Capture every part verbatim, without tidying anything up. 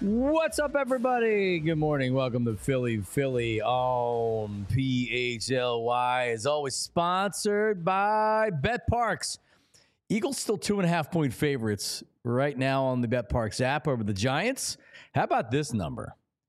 What's up, everybody? Good morning. Welcome to Philly Philly on P H L Y. As always, sponsored by BetParx. Eagles still two and a half point favorites right now on the BetParx app over the Giants. How about this number?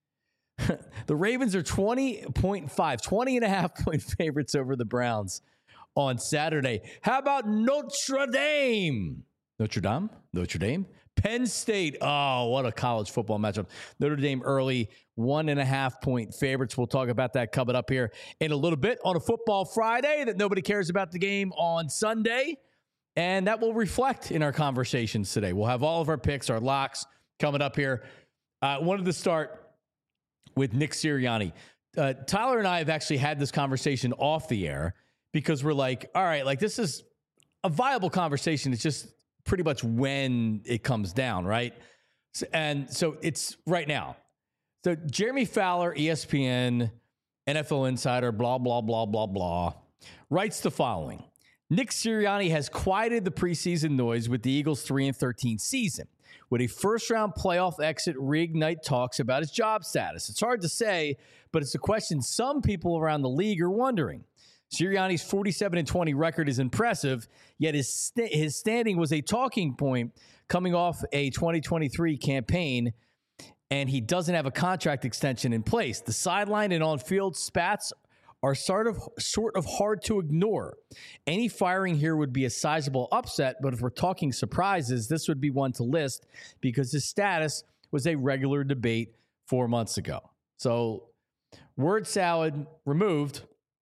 The Ravens are twenty point five, twenty and a half point favorites over the Browns on Saturday. How about Notre Dame? Notre Dame? Notre Dame? Penn State. Oh, what a college football matchup. Notre Dame early, one and a half point favorites. We'll talk about that coming up here in a little bit on a football Friday that nobody cares about the game on Sunday. And that will reflect in our conversations today. We'll have all of our picks, our locks coming up here. I uh, wanted to start with Nick Sirianni. Uh, Tyler and I have actually had this conversation off the air because we're like, all right, like this is a viable conversation. It's just pretty much when it comes down, right? So, and so it's right now. So Jeremy Fowler, E S P N, N F L Insider, blah, blah, blah, blah, blah, writes the following. Nick Sirianni has quieted the preseason noise with the Eagles' three and thirteen season. With a first-round playoff exit, reignite talks about his job status. It's hard to say, but it's a question some people around the league are wondering. Sirianni's forty-seven and twenty record is impressive, yet his st- his standing was a talking point coming off a twenty twenty-three campaign, and he doesn't have a contract extension in place. The sideline and on-field spats are sort of sort of hard to ignore. Any firing here would be a sizable upset, but if we're talking surprises, this would be one to list because his status was a regular debate four months ago. So, word salad removed.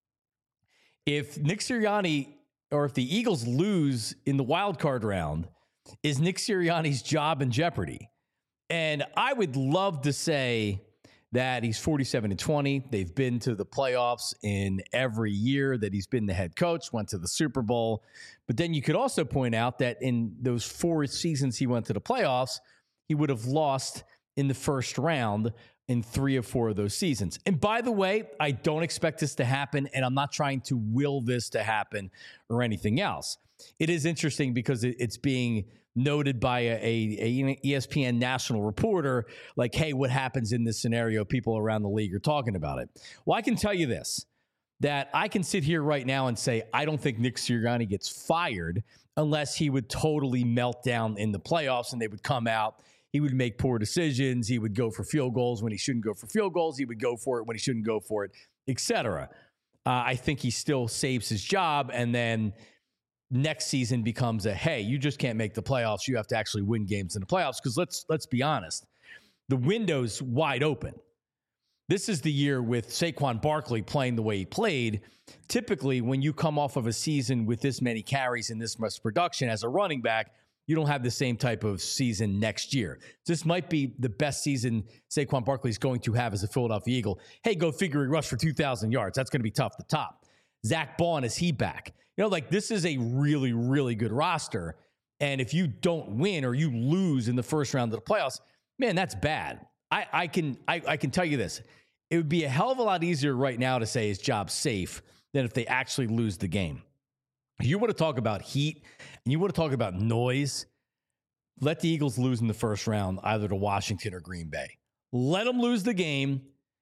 If Nick Sirianni or if the Eagles lose in the wild card round, is Nick Sirianni's job in jeopardy? And I would love to say that he's forty-seven and twenty. They've been to the playoffs in every year that he's been the head coach, went to the Super Bowl. But then you could also point out that in those four seasons he went to the playoffs, he would have lost in the first round in three or four of those seasons. And by the way, I don't expect this to happen, and I'm not trying to will this to happen or anything else. It is interesting because it's being noted by a, a, a E S P N national reporter, like, hey, what happens in this scenario? People around the league are talking about it. Well, I can tell you this, that I can sit here right now and say, I don't think Nick Sirianni gets fired unless he would totally melt down in the playoffs and they would come out. He would make poor decisions. He would go for field goals when he shouldn't go for field goals. He would go for it when he shouldn't go for it, et cetera. Uh, I think he still saves his job, and then next season becomes a, hey, you just can't make the playoffs. You have to actually win games in the playoffs because let's let's be honest. The window's wide open. This is the year with Saquon Barkley playing the way he played. Typically, when you come off of a season with this many carries and this much production as a running back, you don't have the same type of season next year. This might be the best season Saquon Barkley is going to have as a Philadelphia Eagle. Hey, go figure he rushed for two thousand yards. That's going to be tough to top. Zach Bond, is he back? You know, like this is a really, really good roster. And if you don't win or you lose in the first round of the playoffs, man, that's bad. I, I can I, I can tell you this. It would be a hell of a lot easier right now to say his job's safe than if they actually lose the game. You want to talk about heat and you want to talk about noise, let the Eagles lose in the first round, either to Washington or Green Bay. Let them lose the game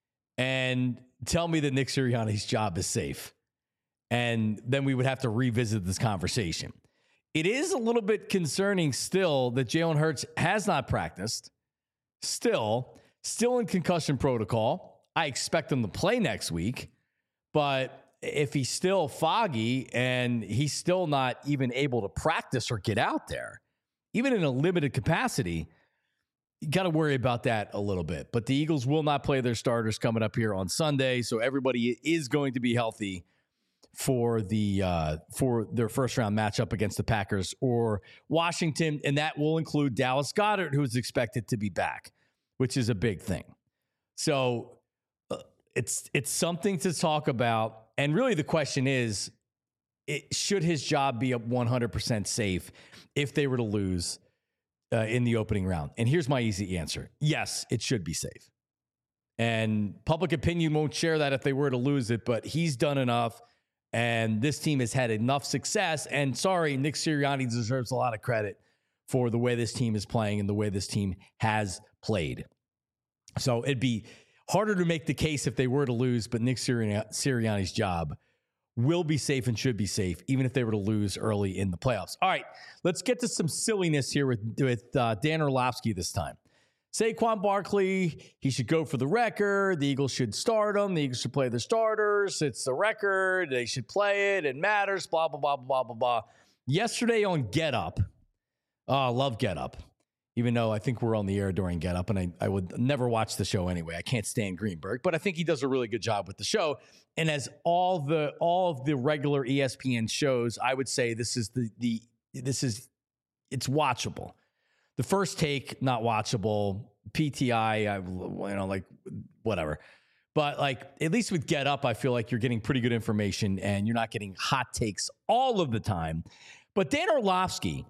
and tell me that Nick Sirianni's job is safe. And then we would have to revisit this conversation. It is a little bit concerning still that Jalen Hurts has not practiced. Still, still in concussion protocol. I expect him to play next week, but if he's still foggy and he's still not even able to practice or get out there, even in a limited capacity, you got to worry about that a little bit. But the Eagles will not play their starters coming up here on Sunday, so everybody is going to be healthy for the uh, for their first round matchup against the Packers or Washington, and that will include Dallas Goedert, who is expected to be back, which is a big thing. So uh, it's it's something to talk about. And really the question is, it, should his job be one hundred percent safe if they were to lose uh, in the opening round? And here's my easy answer. Yes, it should be safe. And public opinion won't share that if they were to lose it, but he's done enough. And this team has had enough success. And sorry, Nick Sirianni deserves a lot of credit for the way this team is playing and the way this team has played. So it'd be harder to make the case if they were to lose, but Nick Sirianni- Sirianni's job will be safe and should be safe, even if they were to lose early in the playoffs. All right, let's get to some silliness here with, with uh, Dan Orlovsky this time. Saquon Barkley, he should go for the record. The Eagles should start him. The Eagles should play their starters. It's the record. They should play it. It matters, blah, blah, blah, blah, blah, blah. Yesterday on Get Up, oh, I love Get Up, even though I think we're on the air during Get Up, and I, I would never watch the show anyway. I can't stand Greenberg, but I think he does a really good job with the show. And as all the all of the regular E S P N shows, I would say this is the the this is it's watchable. The First Take, not watchable. P T I, I you know, like whatever. But like at least with Get Up, I feel like you're getting pretty good information and you're not getting hot takes all of the time. But Dan Orlovsky,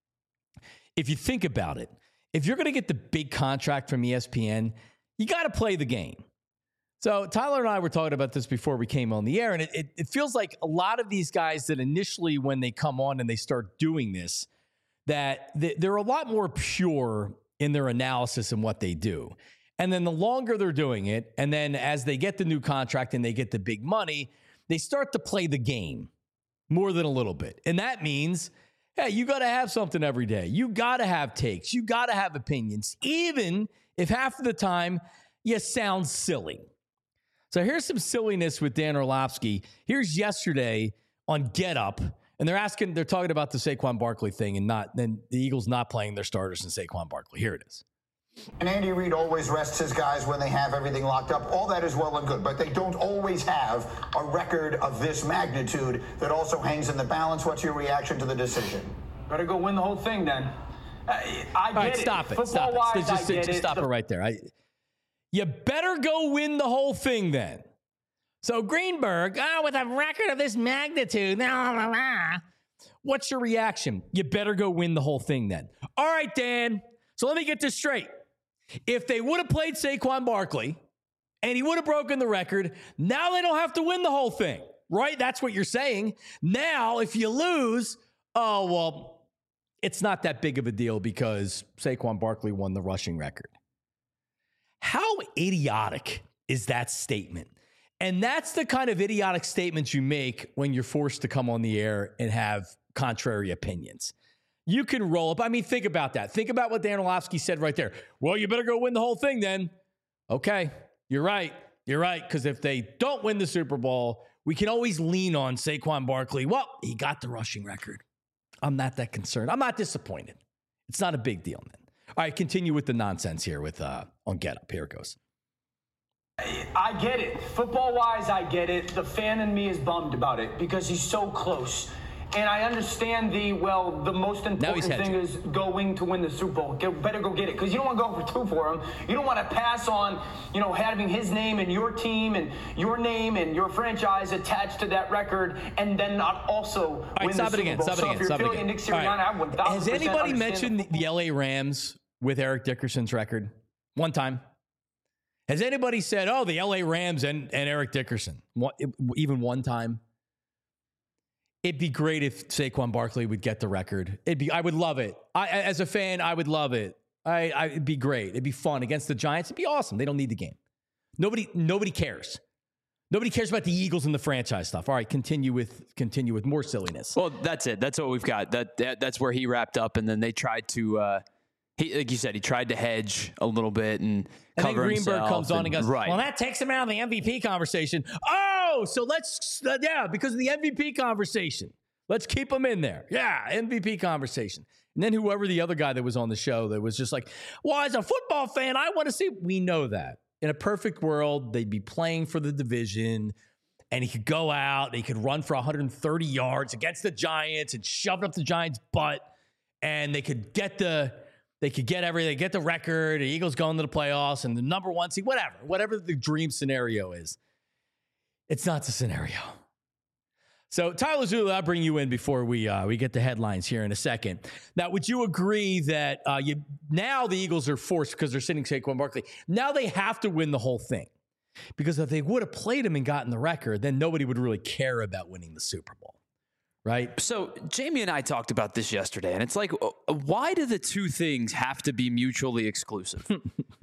if you think about it, if you're going to get the big contract from E S P N, you got to play the game. So Tyler and I were talking about this before we came on the air, and it, it, it feels like a lot of these guys that initially when they come on and they start doing this, that they're a lot more pure in their analysis and what they do. And then the longer they're doing it, and then as they get the new contract and they get the big money, they start to play the game more than a little bit. And that means, hey, you got to have something every day. You got to have takes. You got to have opinions, even if half of the time you sound silly. So here's some silliness with Dan Orlovsky. Here's yesterday on Get Up, and they're asking, they're talking about the Saquon Barkley thing and not then the Eagles not playing their starters in Saquon Barkley. Here it is. And Andy Reid always rests his guys when they have everything locked up. All that is well and good, but they don't always have a record of this magnitude that also hangs in the balance. What's your reaction to the decision? Better go win the whole thing then. Uh, I get All right, it. stop it. Stop Football-wise, it. Just, I just, get just it. stop The- it right there. I, you better go win the whole thing then. So Greenberg, oh, with a record of this magnitude, blah, blah, blah. What's your reaction? You better go win the whole thing then. All right, Dan. So let me get this straight. If they would have played Saquon Barkley and he would have broken the record, now they don't have to win the whole thing, right? That's what you're saying. Now, if you lose, oh, well, it's not that big of a deal because Saquon Barkley won the rushing record. How idiotic is that statement? And that's the kind of idiotic statements you make when you're forced to come on the air and have contrary opinions. You can roll up. I mean, think about that. Think about what Dan Orlovsky said right there. Well, you better go win the whole thing then. Okay, you're right. You're right, because if they don't win the Super Bowl, we can always lean on Saquon Barkley. Well, he got the rushing record. I'm not that concerned. I'm not disappointed. It's not a big deal, man. All right, continue with the nonsense here with uh, on Get Up. Here it goes. I get it. Football-wise, I get it. The fan in me is bummed about it because he's so close. And I understand the, well, the most important thing is going to win the Super Bowl. Get, better go get it. Because you don't want to go for two for him. You don't want to pass on, you know, having his name and your team and your name and your franchise attached to that record and then not also right, win stop the it Super again, Bowl. stop it so again, if you're stop it feeling again. Nick Sirianni, Right. I would one thousand percent Has anybody understand mentioned the, the L A Rams with Eric Dickerson's record? One time. Has anybody said, oh, the L A Rams and, and Eric Dickerson? One, even one time? It'd be great if Saquon Barkley would get the record. It'd be, I would love it. I, as a fan, I would love it. I, I, it'd be great. It'd be fun against the Giants. It'd be awesome. They don't need the game. Nobody, nobody cares. Nobody cares about the Eagles and the franchise stuff. All right, continue with continue with more silliness. Well, that's it. That's what we've got. That, that that's where he wrapped up, and then they tried to. Uh, he, like you said, he tried to hedge a little bit and, and cover then Greenberg himself comes on and, and goes, right. well, that takes him out of the M V P conversation. Oh, so let's uh, yeah, because of the M V P conversation. Let's keep him in there. Yeah, M V P conversation. And then whoever the other guy that was on the show that was just like, well, as a football fan, I want to see. We know that. In a perfect world, they'd be playing for the division, and he could go out, and he could run for one hundred thirty yards against the Giants and shove it up the Giants' butt, and they could get the they could get everything, get the record, the Eagles going to the playoffs, and the number one seed, whatever, whatever the dream scenario is. It's not the scenario. So, Tyler Zula, I'll bring you in before we uh, we get the headlines here in a second. Now, would you agree that uh, you now the Eagles are forced, because they're sitting Saquon Barkley, now they have to win the whole thing? Because if they would have played him and gotten the record, then nobody would really care about winning the Super Bowl, right? So, Jamie and I talked about this yesterday, and it's like, why do the two things have to be mutually exclusive?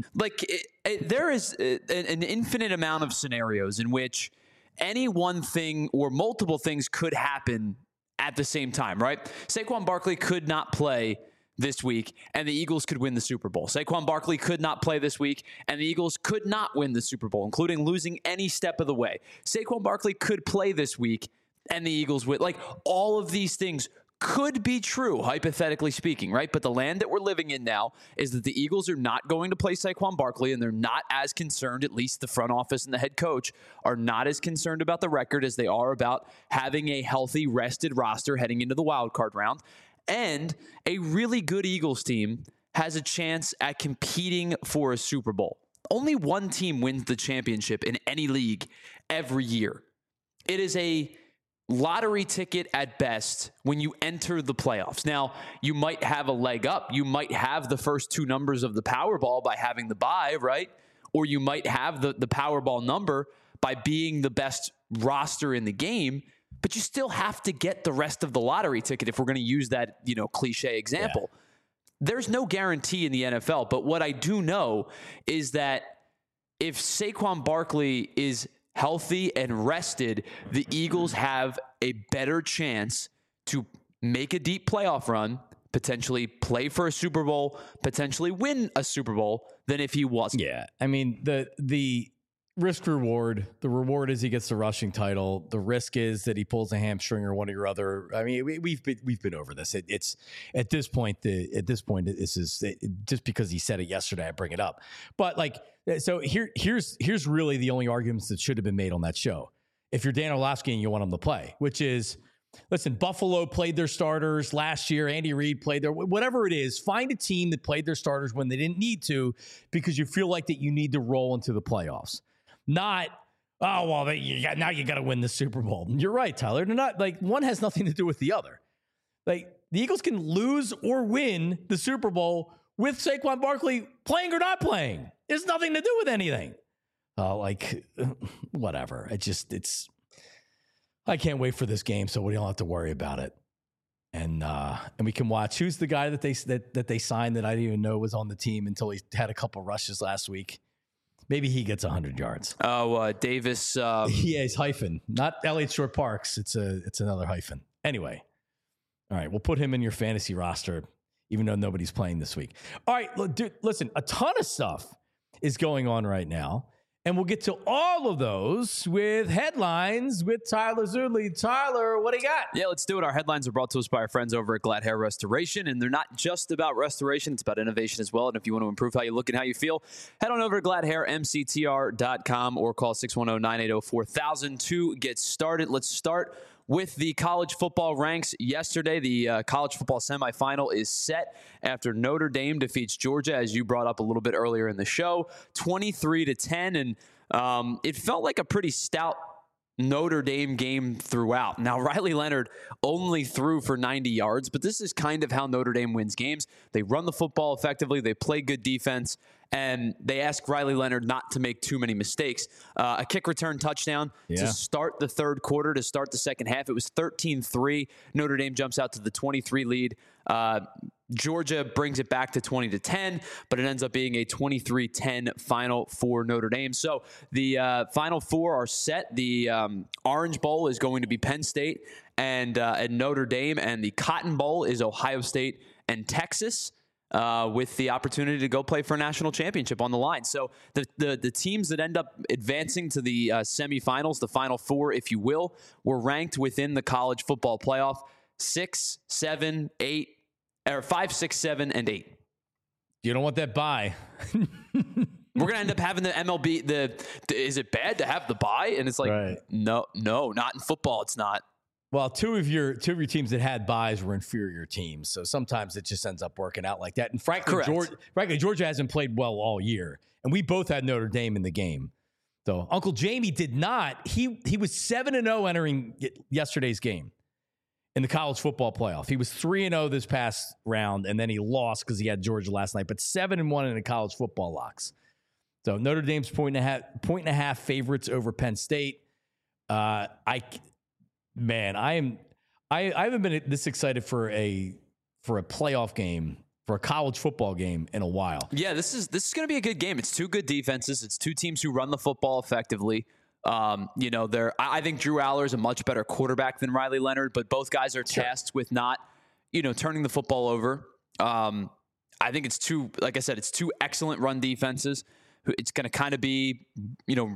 like it, it, there is an, an infinite amount of scenarios in which any one thing or multiple things could happen at the same time, right? Saquon Barkley could not play this week, and the Eagles could win the Super Bowl. Saquon Barkley could not play this week, and the Eagles could not win the Super Bowl, including losing any step of the way. Saquon Barkley could play this week, and the Eagles would. Like, all of these things could be true, hypothetically speaking, right? But the land that we're living in now is that the Eagles are not going to play Saquon Barkley, and they're not as concerned, at least the front office and the head coach are not as concerned about the record as they are about having a healthy, rested roster heading into the wild card round. And a really good Eagles team has a chance at competing for a Super Bowl. Only one team wins the championship in any league every year. It is a lottery ticket at best when you enter the playoffs. Now, you might have a leg up. You might have the first two numbers of the Powerball by having the bye, right? Or you might have the, the Powerball number by being the best roster in the game, but you still have to get the rest of the lottery ticket if we're going to use that, you know, cliche example. Yeah. There's no guarantee in the N F L, but what I do know is that if Saquon Barkley is healthy and rested, the Eagles have a better chance to make a deep playoff run, potentially play for a Super Bowl, potentially win a Super Bowl than if he wasn't. Yeah. I mean, the the risk reward, the reward is he gets the rushing title. The risk is that he pulls a hamstring or one of your other. I mean, we, we've been, we've been over this. It, it's at this point, the, at this point, this is it, just because he said it yesterday, I bring it up. But like, so here, here's, here's really the only arguments that should have been made on that show. If you're Dan Orlovsky and you want him to play, which is, listen, Buffalo played their starters last year. Andy Reid played their, whatever it is, find a team that played their starters when they didn't need to, because you feel like that you need to roll into the playoffs. Not, oh, well, they, you got, now you got to win the Super Bowl. You're right, Tyler. They're not, like, one has nothing to do with the other. Like, the Eagles can lose or win the Super Bowl with Saquon Barkley playing or not playing. It's nothing to do with anything. Uh, like, whatever. It just, it's, I can't wait for this game, so we don't have to worry about it. And uh, and we can watch. Who's the guy that they that, that they signed that I didn't even know was on the team until he had a couple rushes last week? Maybe he gets one hundred yards. Oh, uh, Davis. Um... Yeah, he's hyphen. Not Elliott Shore Parks. It's a it's another hyphen. Anyway. All right, we'll put him in your fantasy roster, even though nobody's playing this week. All right, look, dude, listen, a ton of stuff is going on right now. And we'll get to all of those with headlines with Tyler Zudley. Tyler, what do you got? Yeah, let's do it. Our headlines are brought to us by our friends over at Glad Hair Restoration. And they're not just about restoration. It's about innovation as well. And if you want to improve how you look and how you feel, head on over to glad hair m c t r dot com or call six one zero, nine eight zero, four thousand to get started. Let's start with the college football ranks. Yesterday, the uh, college football semifinal is set after Notre Dame defeats Georgia, as you brought up a little bit earlier in the show, twenty-three to ten. And um, it felt like a pretty stout Notre Dame game throughout. Now, Riley Leonard only threw for ninety yards, but this is kind of how Notre Dame wins games. They run the football effectively. They play good defense. And they ask Riley Leonard not to make too many mistakes. Uh, a kick return touchdown yeah. to start the third quarter, to start the second half. It was thirteen three. Notre Dame jumps out to the twenty-three lead. Uh, Georgia brings it back to twenty to ten, but it ends up being a twenty-three ten final for Notre Dame. So the uh, final four are set. The um, Orange Bowl is going to be Penn State and, uh, and Notre Dame, and the Cotton Bowl is Ohio State and Texas. Uh, with the opportunity to go play for a national championship on the line. So the the, the teams that end up advancing to the uh, semifinals, the Final Four, if you will, were ranked within the college football playoff six, seven, eight, or five, six, seven, and eight. You don't want that bye. We're going to end up having the M L B. The, the Is it bad to have the bye? And it's like, right. no, no, not in football. It's not. Well, two of your two of your teams that had byes were inferior teams, so sometimes it just ends up working out like that. And frankly, Georgia, frankly, Georgia hasn't played well all year, and we both had Notre Dame in the game. So Uncle Jamie did not. He he was seven and zero entering yesterday's game in the college football playoff. He was three and zero this past round, and then he lost because he had Georgia last night. But seven and one in the college football locks. So Notre Dame's point and a half point and a half favorites over Penn State. Uh, I. Man, I am. I, I haven't been this excited for a for a playoff game for a college football game in a while. Yeah, this is this is going to be a good game. It's two good defenses. It's two teams who run the football effectively. Um, you know, they're I, I think Drew Aller is a much better quarterback than Riley Leonard, but both guys are Sure. tasked with not, you know, turning the football over. Um, I think it's two, like I said, it's two excellent run defenses. It's going to kind of be, you know,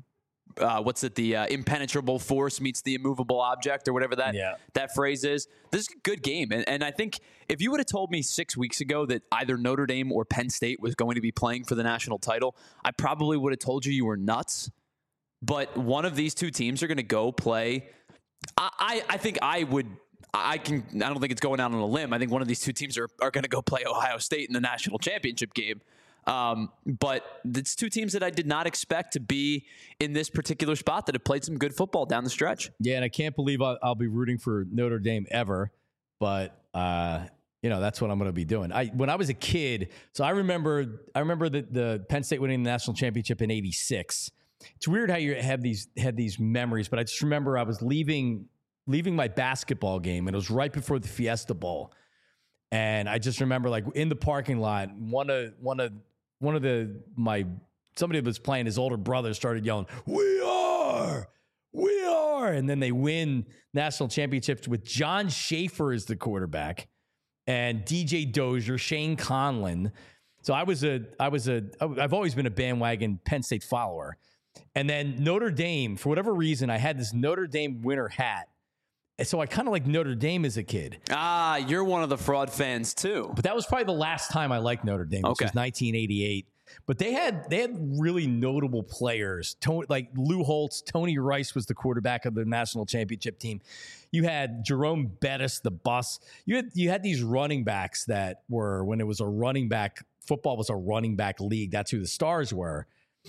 Uh, what's it? The uh, impenetrable force meets the immovable object, or whatever that Yeah. that phrase is. This is a good game, and, and I think if you would have told me six weeks ago that either Notre Dame or Penn State was going to be playing for the national title, I probably would have told you you were nuts. But one of these two teams are going to go play. I, I I think I would. I can. I don't think it's going out on a limb. I think one of these two teams are are going to go play Ohio State in the national championship game. Um, but it's two teams that I did not expect to be in this particular spot that have played some good football down the stretch. Yeah, and I can't believe I'll, I'll be rooting for Notre Dame ever, but uh, you know that's what I'm going to be doing. I when I was a kid, so I remember I remember the, the Penn State winning the national championship in eighty-six. It's weird how you have these had these memories, but I just remember I was leaving leaving my basketball game, and it was right before the Fiesta Bowl, and I just remember like in the parking lot, one of one of One of the my somebody that was playing, his older brother started yelling, "We are, we are!" And then they win national championships with John Schaefer as the quarterback, and D J Dozier, Shane Conlon. So I was a I was a I've always been a bandwagon Penn State follower, and then Notre Dame, for whatever reason, I had this Notre Dame winter hat. And so I kind of like Notre Dame as a kid. Ah, you're one of the fraud fans too. But that was probably the last time I liked Notre Dame, which Okay. was nineteen eighty-eight. But they had they had really notable players, Tony, like Lou Holtz. Tony Rice was the quarterback of the national championship team. You had Jerome Bettis, the bus. You had you had these running backs that were, when it was a running back, football was a running back league. That's who the stars were.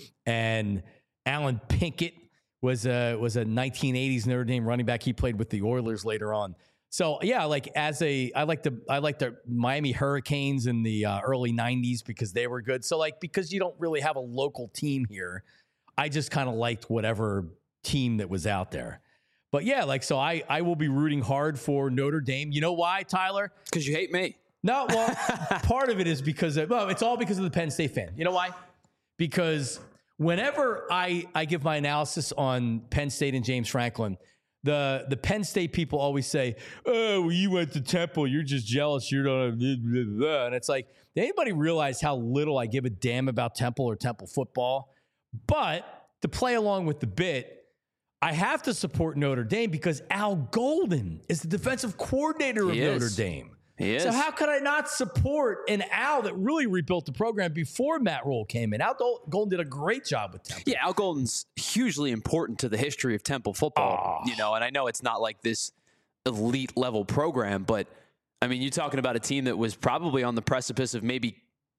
And Alan Pinkett was a was a nineteen eighties Notre Dame running back. He played with the Oilers later on. So yeah, like as a, I like the I like the Miami Hurricanes in the uh, early nineties because they were good. So like because you don't really have a local team here, I just kind of liked whatever team that was out there. But yeah, like so I I will be rooting hard for Notre Dame. You know why, Tyler? Because you hate me. No, well, part of it is because of, well, it's all because of the Penn State fan. You know why? Because whenever I, I give my analysis on Penn State and James Franklin, the the Penn State people always say, "Oh, well, you went to Temple. You're just jealous. You don't." Blah, blah, blah. And it's like, did anybody realize how little I give a damn about Temple or Temple football? But to play along with the bit, I have to support Notre Dame because Al Golden is the defensive coordinator of He Notre is. Dame. He is. So how could I not support an Al that really rebuilt the program before Matt Rule came in? Al Golden did a great job with Temple. Yeah, Al Golden's hugely important to the history of Temple football. Oh. You know, and I know it's not like this elite level program, but I mean, you're talking about a team that was probably on the precipice of maybe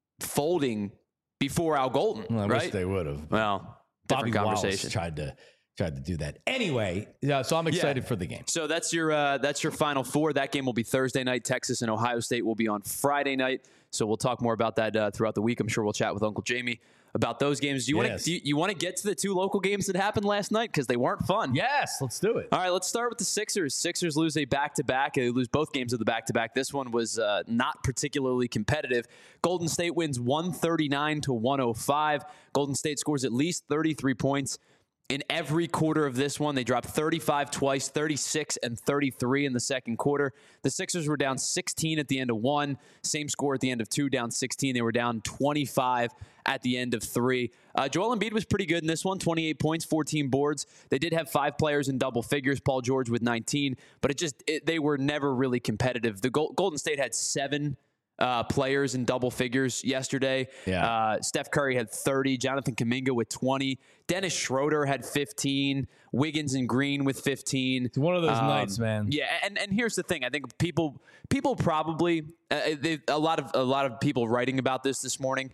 folding before Al Golden, Well, I right? wish they would have. well, Bobby different Wallace conversation. tried to tried to do that. Anyway, yeah, so I'm excited Yeah. for the game. So that's your uh, that's your Final Four. That game will be Thursday night. Texas and Ohio State will be on Friday night. So we'll talk more about that uh, throughout the week. I'm sure we'll chat with Uncle Jamie about those games. Do you Yes. want to you, you want to get to the two local games that happened last night because they weren't fun? Yes, let's do it. All right, let's start with the Sixers. Sixers lose a back-to-back. They lose both games of the back-to-back. This one was uh, not particularly competitive. Golden State wins one thirty-nine to one oh five. Golden State scores at least thirty-three points in every quarter of this one. They dropped thirty-five twice, thirty-six and thirty-three in the second quarter. The Sixers were down sixteen at the end of one. Same score at the end of two, down sixteen. They were down twenty-five at the end of three. Uh, Joel Embiid was pretty good in this one, twenty-eight points, fourteen boards. They did have five players in double figures, Paul George with nineteen, but it just it, they were never really competitive. The Gold, Golden State had seven Uh, players in double figures yesterday. Yeah. Uh, Steph Curry had thirty. Jonathan Kuminga with twenty. Dennis Schroeder had fifteen. Wiggins and Green with fifteen. It's one of those Um, nights, man. Yeah, and, and here's the thing. I think people people probably uh, they, a lot of a lot of people writing about this this morning.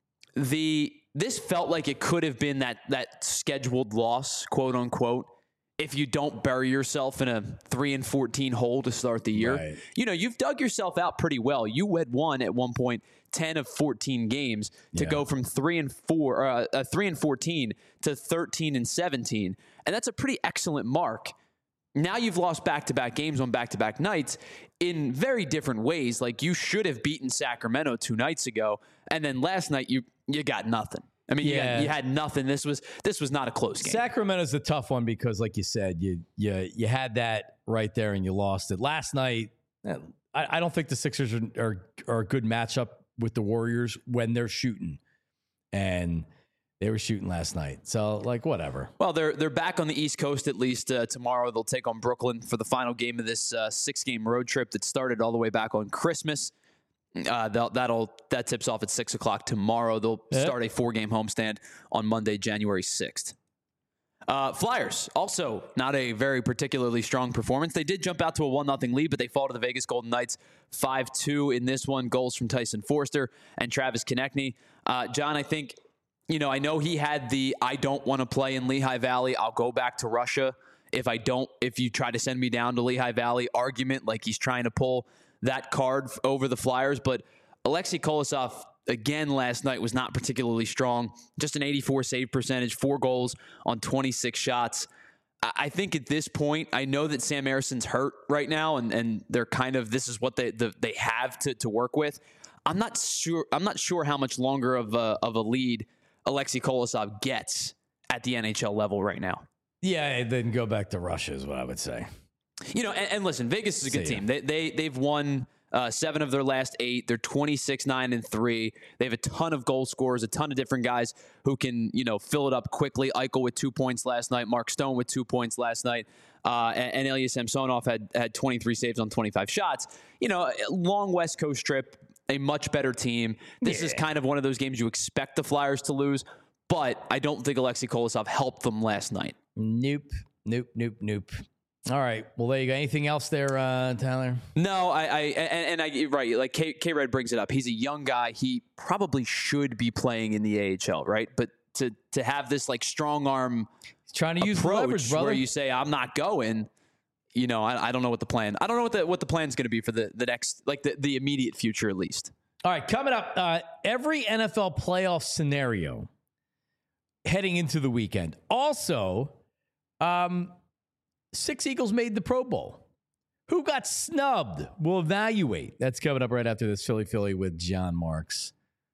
The this felt like it could have been that that scheduled loss, quote unquote, if you don't bury yourself in a three and fourteen hole to start the year. Right. You know, you've dug yourself out pretty well. You had won at one point ten of fourteen games to Yeah. go from three and four, uh, uh, three and fourteen to thirteen and seventeen, and that's a pretty excellent mark. now you've lost back-to-back games on back-to-back nights in very different ways. Like, you should have beaten Sacramento two nights ago, and then last night you you got nothing. I mean, yeah. you, got, you had nothing. This was this was not a close game. Sacramento's a tough one because, like you said, you you you had that right there and you lost it. Last night, I, I don't think the Sixers are, are are a good matchup with the Warriors when they're shooting, and they were shooting last night. So, like, whatever. Well, they're they're back on the East Coast at least uh, tomorrow. They'll take on Brooklyn for the final game of this uh, six-game road trip that started all the way back on Christmas. Uh, that'll that tips off at six o'clock tomorrow. They'll yep. start a four-game homestand on Monday, January sixth. Uh, Flyers, also not a very particularly strong performance. They did jump out to a one nothing lead, but they fall to the Vegas Golden Knights five two in this one. Goals from Tyson Forster and Travis Konechny. Uh, John, I think, you know, I know he had the I don't want to play in Lehigh Valley. I'll go back to Russia if I don't, if you try to send me down to Lehigh Valley argument, like he's trying to pull that card over the Flyers. But Alexei Kolosov, again, last night was not particularly strong. Just an eighty-four save percentage, four goals on twenty-six shots. I think at this point, I know that Sam Erson's hurt right now, and, and they're kind of, this is what they the, they have to, to work with. I'm not sure. I'm not sure how much longer of a, of a lead Alexei Kolosov gets at the N H L level right now. Yeah, then go back to Russia is what I would say. You know, and, and listen, Vegas is a good See team. They, they, they've won uh, seven of their last eight. They're twenty-six, nine, and three. They have a ton of goal scorers, a ton of different guys who can, you know, fill it up quickly. Eichel with two points last night. Mark Stone with two points last night. Uh, and, and Ilya Samsonov had, had twenty-three saves on twenty-five shots. You know, long West Coast trip, a much better team. This yeah. is kind of one of those games you expect the Flyers to lose, but I don't think Alexei Kolosov helped them last night. Nope, nope, nope, nope. All right. Well, there you go. Anything else there, uh, Tyler? No, I, I and, and I right. Like K, K Red brings it up. He's a young guy. He probably should be playing in the A H L, right? But to to have this like strong arm, He's trying to use leverage, brother, where you say I'm not going. You know, I, I don't know what the plan. I don't know what the what the plan's going to be for the the next, like the the immediate future at least. All right, coming up, uh, every N F L playoff scenario heading into the weekend. Also, um. Six Eagles made the Pro Bowl. Who got snubbed? We'll evaluate. That's coming up right after this Philly Philly with John Marks.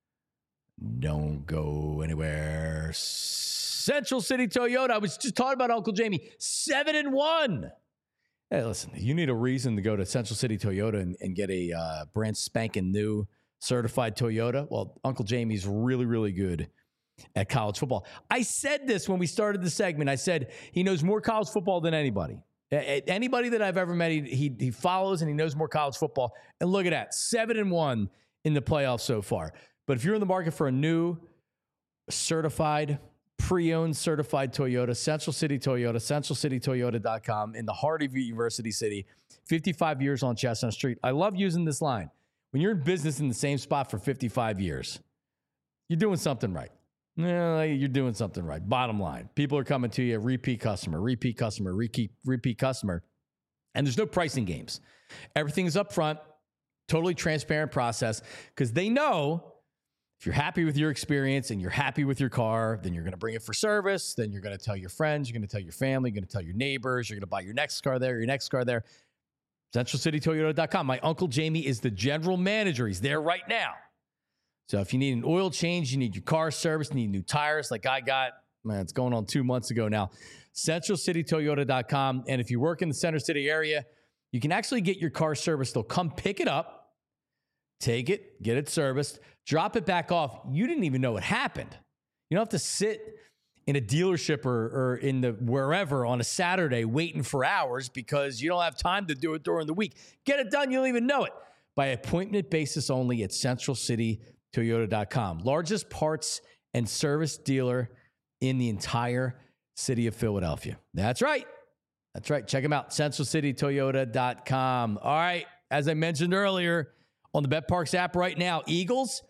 Don't go anywhere. Central City Toyota. I was just talking about Uncle Jamie. Seven and one. Hey, listen, you need a reason to go to Central City Toyota and, and get a uh, brand spanking new certified Toyota. Well, Uncle Jamie's really, really good at college football. I said this when we started the segment. I said he knows more college football than anybody. Anybody that I've ever met, he, he he follows and he knows more college football. And look at that, seven and one in the playoffs so far. But if you're in the market for a new certified, pre-owned certified Toyota, Central City Toyota, central city toyota dot com in the heart of University City, fifty-five years on Chestnut Street. I love using this line. When you're in business in the same spot for fifty-five years, you're doing something right. Yeah, you're doing something right. Bottom line, people are coming to you, repeat customer, repeat customer, repeat, repeat customer. And there's no pricing games. Everything is up front, totally transparent process, because they know if you're happy with your experience and you're happy with your car, then you're going to bring it for service. Then you're going to tell your friends, you're going to tell your family, you're going to tell your neighbors, you're going to buy your next car there, your next car there. central city toyota dot com. My Uncle Jamie is the general manager. He's there right now. So if you need an oil change, you need your car service, need new tires like I got, man, it's going on two months ago now, central city toyota dot com. And if you work in the Center City area, you can actually get your car serviced. They'll come pick it up, take it, get it serviced, drop it back off. You didn't even know it happened. You don't have to sit in a dealership or, or in the wherever on a Saturday waiting for hours because you don't have time to do it during the week. Get it done. You don't even know it. By appointment basis only at central city toyota dot com. Largest parts and service dealer in the entire city of Philadelphia. That's right. That's right. Check them out. central city toyota dot com. All right. As I mentioned earlier on the BetParks app right now, Eagles,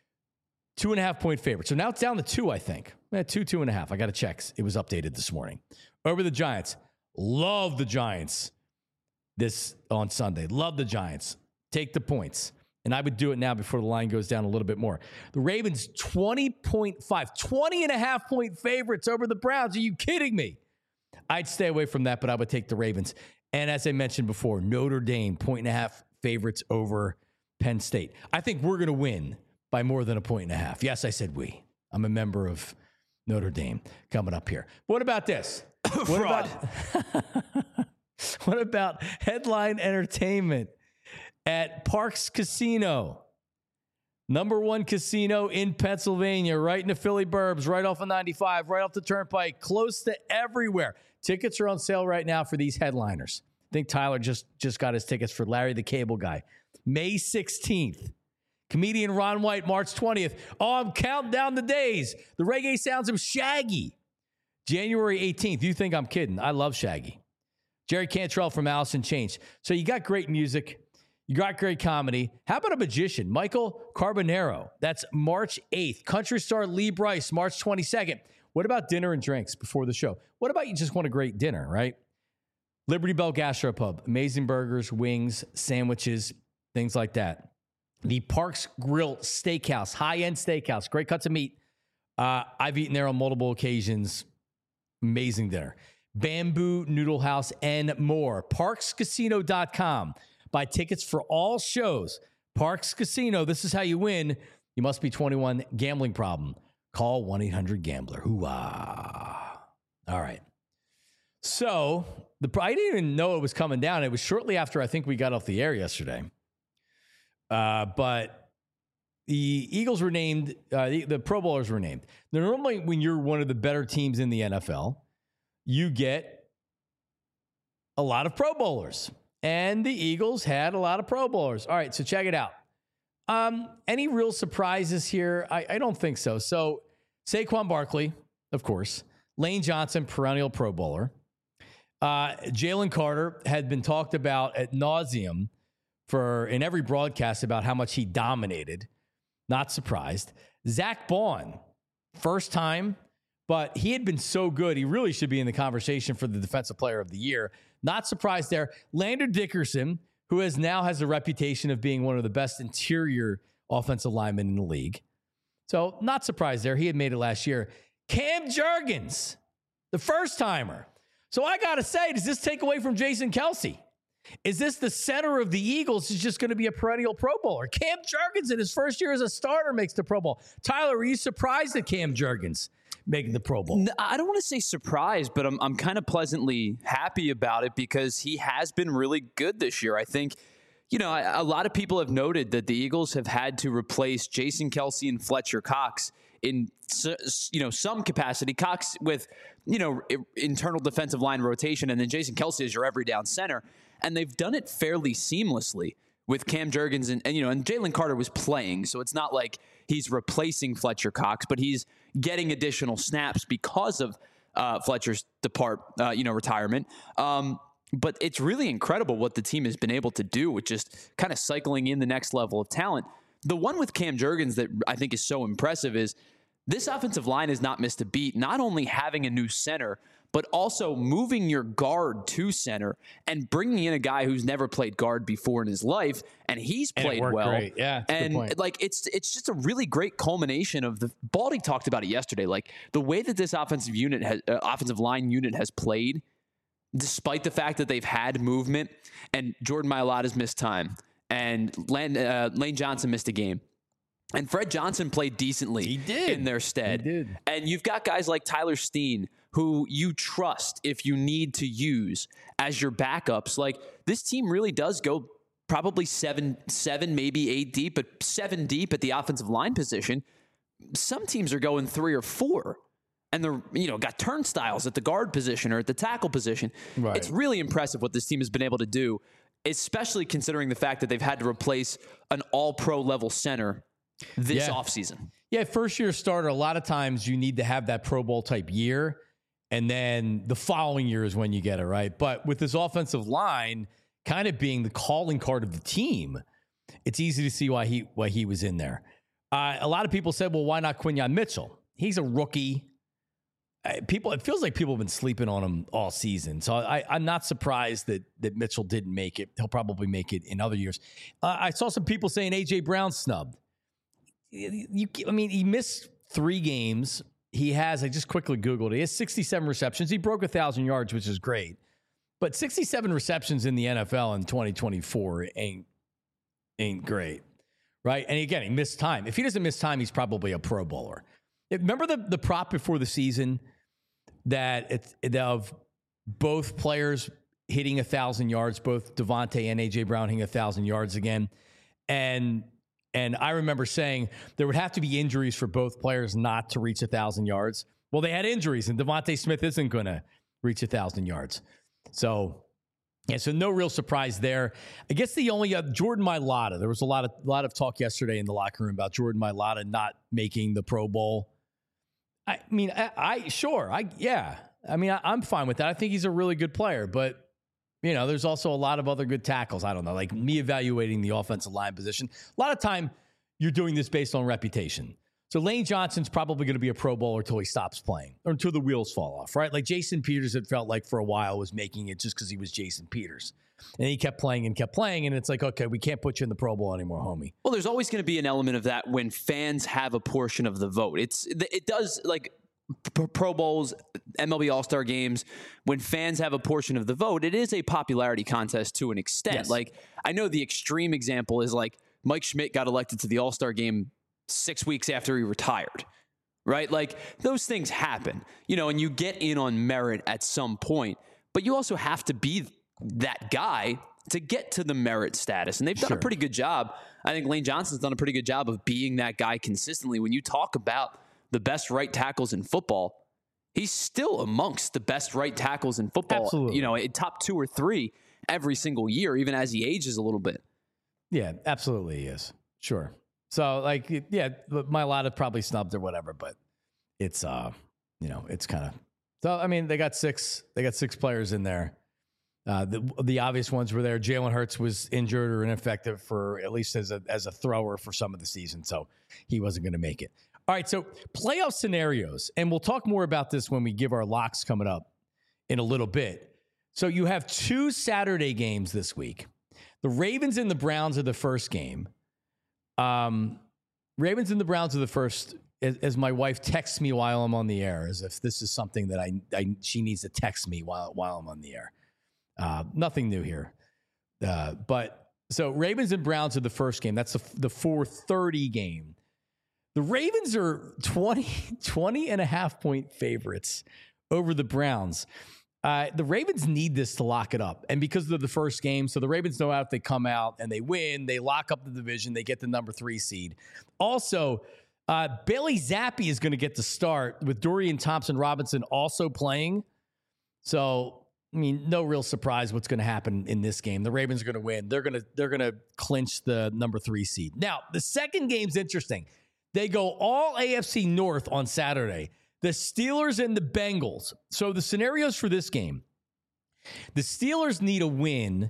two and a half point favorite. So now it's down to two, I think. Eh, two, two and a half. I got to check. It was updated this morning. Over the Giants. Love the Giants this on Sunday. Love the Giants. Take the points. And I would do it now before the line goes down a little bit more. The Ravens, twenty point five, twenty and a half point favorites over the Browns. Are you kidding me? I'd stay away from that, but I would take the Ravens. And as I mentioned before, Notre Dame, point and a half favorites over Penn State. I think we're going to win by more than a point and a half. Yes, I said we. I'm a member of Notre Dame coming up here. What about this? What about, what about headline entertainment at Parx Casino? Number one casino in Pennsylvania, right in the Philly burbs, right off of ninety-five, right off the turnpike, close to everywhere. Tickets are on sale right now for these headliners. I think Tyler just, just got his tickets for Larry the Cable Guy. May sixteenth. Comedian Ron White, March twentieth. Oh, I'm counting down the days. The reggae sounds of Shaggy. January eighteenth. You think I'm kidding. I love Shaggy. Jerry Cantrell from Alice in Chains. So you got great music. You got great comedy. How about a magician? Michael Carbonaro. That's March eighth. Country star Lee Brice, March twenty-second. What about dinner and drinks before the show? What about you just want a great dinner, right? Liberty Bell Gastropub. Amazing burgers, wings, sandwiches, things like that. The Parx Grill Steakhouse. High-end steakhouse. Great cuts of meat. Uh, I've eaten there on multiple occasions. Amazing dinner. Bamboo Noodle House and more. Parx Casino dot com. Buy tickets for all shows. Parx Casino, this is how you win. You must be twenty-one. Gambling problem. Call one eight hundred gambler. Hoo-ah. All right. So, the I didn't even know it was coming down. It was shortly after I think we got off the air yesterday. Uh, but the Eagles were named, uh, the, the Pro Bowlers were named. Now, normally when you're one of the better teams in the N F L, you get a lot of Pro Bowlers. And the Eagles had a lot of Pro Bowlers. All right, so check it out. Um, any real surprises here? I, I don't think so. So Saquon Barkley, of course. Lane Johnson, perennial Pro Bowler. Uh, Jalen Carter had been talked about ad nauseum for in every broadcast about how much he dominated. Not surprised. Zach Baun, first time, but he had been so good. He really should be in the conversation for the Defensive Player of the Year. Not surprised there. Landon Dickerson, who has now has a reputation of being one of the best interior offensive linemen in the league. So not surprised there. He had made it last year. Cam Jurgens, the first timer. So I got to say, does this take away from Jason Kelce? Is this the center of the Eagles is just going to be a perennial Pro Bowler? Cam Jurgens in his first year as a starter makes the Pro Bowl. Tyler, are you surprised at Cam Jurgens making the Pro Bowl? I don't want to say surprised, but I'm I'm kind of pleasantly happy about it because he has been really good this year. I think, you know, a lot of people have noted that the Eagles have had to replace Jason Kelce and Fletcher Cox in, you know, some capacity. Cox with, you know, internal defensive line rotation, and then Jason Kelce is your every down center. And they've done it fairly seamlessly with Cam Jurgens and, and you know, and Jalen Carter was playing, so it's not like he's replacing Fletcher Cox, but he's getting additional snaps because of uh, Fletcher's depart, uh, you know, retirement. Um, but it's really incredible what the team has been able to do with just kind of cycling in the next level of talent. The one with Cam Jurgens that I think is so impressive is this offensive line has not missed a beat, not only having a new center, but also moving your guard to center and bringing in a guy who's never played guard before in his life, and he's played and well. Great. Yeah, and like it's it's just a really great culmination of the Baldy talked about it yesterday. Like the way that this offensive unit has uh, offensive line unit has played, despite the fact that they've had movement, and Jordan Mailata's missed time, and Lane, uh, Lane Johnson missed a game. And Fred Johnson played decently he did. in their stead. He did. And you've got guys like Tyler Steen, who you trust if you need to use as your backups. Like this team really does go probably seven, seven, maybe eight deep, but seven deep at the offensive line position. Some teams are going three or four, and they're, you know, got turnstiles at the guard position or at the tackle position. Right. It's really impressive what this team has been able to do, especially considering the fact that they've had to replace an all-pro level center this yeah. offseason. Yeah, first year starter, a lot of times you need to have that Pro Bowl type year, and then the following year is when you get it, right? But with this offensive line kind of being the calling card of the team, it's easy to see why he why he was in there. Uh, a lot of people said, well, why not Quinyon Mitchell? He's a rookie. Uh, people, it feels like people have been sleeping on him all season. So I, I'm not surprised that that Mitchell didn't make it. He'll probably make it in other years. Uh, I saw some people saying A J Brown snubbed. You, I mean, he missed three games. he has, I just quickly Googled it, he has sixty-seven receptions. He broke one thousand yards, which is great. But sixty-seven receptions in the N F L in twenty twenty-four ain't, ain't great, right? And again, he missed time. If he doesn't miss time, he's probably a Pro Bowler. Remember the, the prop before the season that it's of both players hitting one thousand yards, both Devontae and A J Brown hitting one thousand yards again? And and I remember saying there would have to be injuries for both players not to reach one thousand yards. Well, they had injuries, and Devontae Smith isn't going to reach one thousand yards. So, yeah, so no real surprise there. I guess the only uh, Jordan Mailata. There was a lot of lot of talk yesterday in the locker room about Jordan Mailata not making the Pro Bowl. I mean, I, I sure, I yeah. I mean, I, I'm fine with that. I think he's a really good player, but you know, there's also a lot of other good tackles. I don't know, like me evaluating the offensive line position. A lot of time, you're doing this based on reputation. So Lane Johnson's probably going to be a Pro Bowler until he stops playing or until the wheels fall off, right? Like Jason Peters, it felt like for a while was making it just because he was Jason Peters. And he kept playing and kept playing. And it's like, okay, we can't put you in the Pro Bowl anymore, homie. Well, there's always going to be an element of that when fans have a portion of the vote. It's It does, like Pro Bowls, M L B All-Star games, when fans have a portion of the vote, it is a popularity contest to an extent. Yes. Like, I know the extreme example is like Mike Schmidt got elected to the All-Star game six weeks after he retired, right? Like those things happen, you know, and you get in on merit at some point, but you also have to be that guy to get to the merit status. And they've done sure. a pretty good job. I think Lane Johnson's done a pretty good job of being that guy consistently. When you talk about the best right tackles in football, he's still amongst the best right tackles in football. Absolutely. You know, in top two or three every single year, even as he ages a little bit. Yeah, absolutely he is. Sure. So, like, yeah, Mailata probably snubbed or whatever, but it's, uh, you know, it's kind of. So, I mean, they got six. They got six players in there. Uh, the the obvious ones were there. Jalen Hurts was injured or ineffective for at least as a as a thrower for some of the season, so he wasn't going to make it. All right, so playoff scenarios, and we'll talk more about this when we give our locks coming up in a little bit. So you have two Saturday games this week. The Ravens and the Browns are the first game. Um, Ravens and the Browns are the first, as, as my wife texts me while I'm on the air, as if this is something that I, I she needs to text me while while I'm on the air. Uh, nothing new here. Uh, but so Ravens and Browns are the first game. That's the, the four thirty game. The Ravens are twenty, twenty and a half point favorites over the Browns. Uh, the Ravens need this to lock it up. And because they're the first game, so the Ravens know if they come out and they win, they lock up the division, they get the number three seed. Also, uh, Bailey Zappi is going to get the start with Dorian Thompson-Robinson also playing. So, I mean, no real surprise what's going to happen in this game. The Ravens are going to win. They're going to they're going to clinch the number three seed. Now, the second game's interesting. They go all A F C North on Saturday. The Steelers and the Bengals. So the scenarios for this game, the Steelers need a win,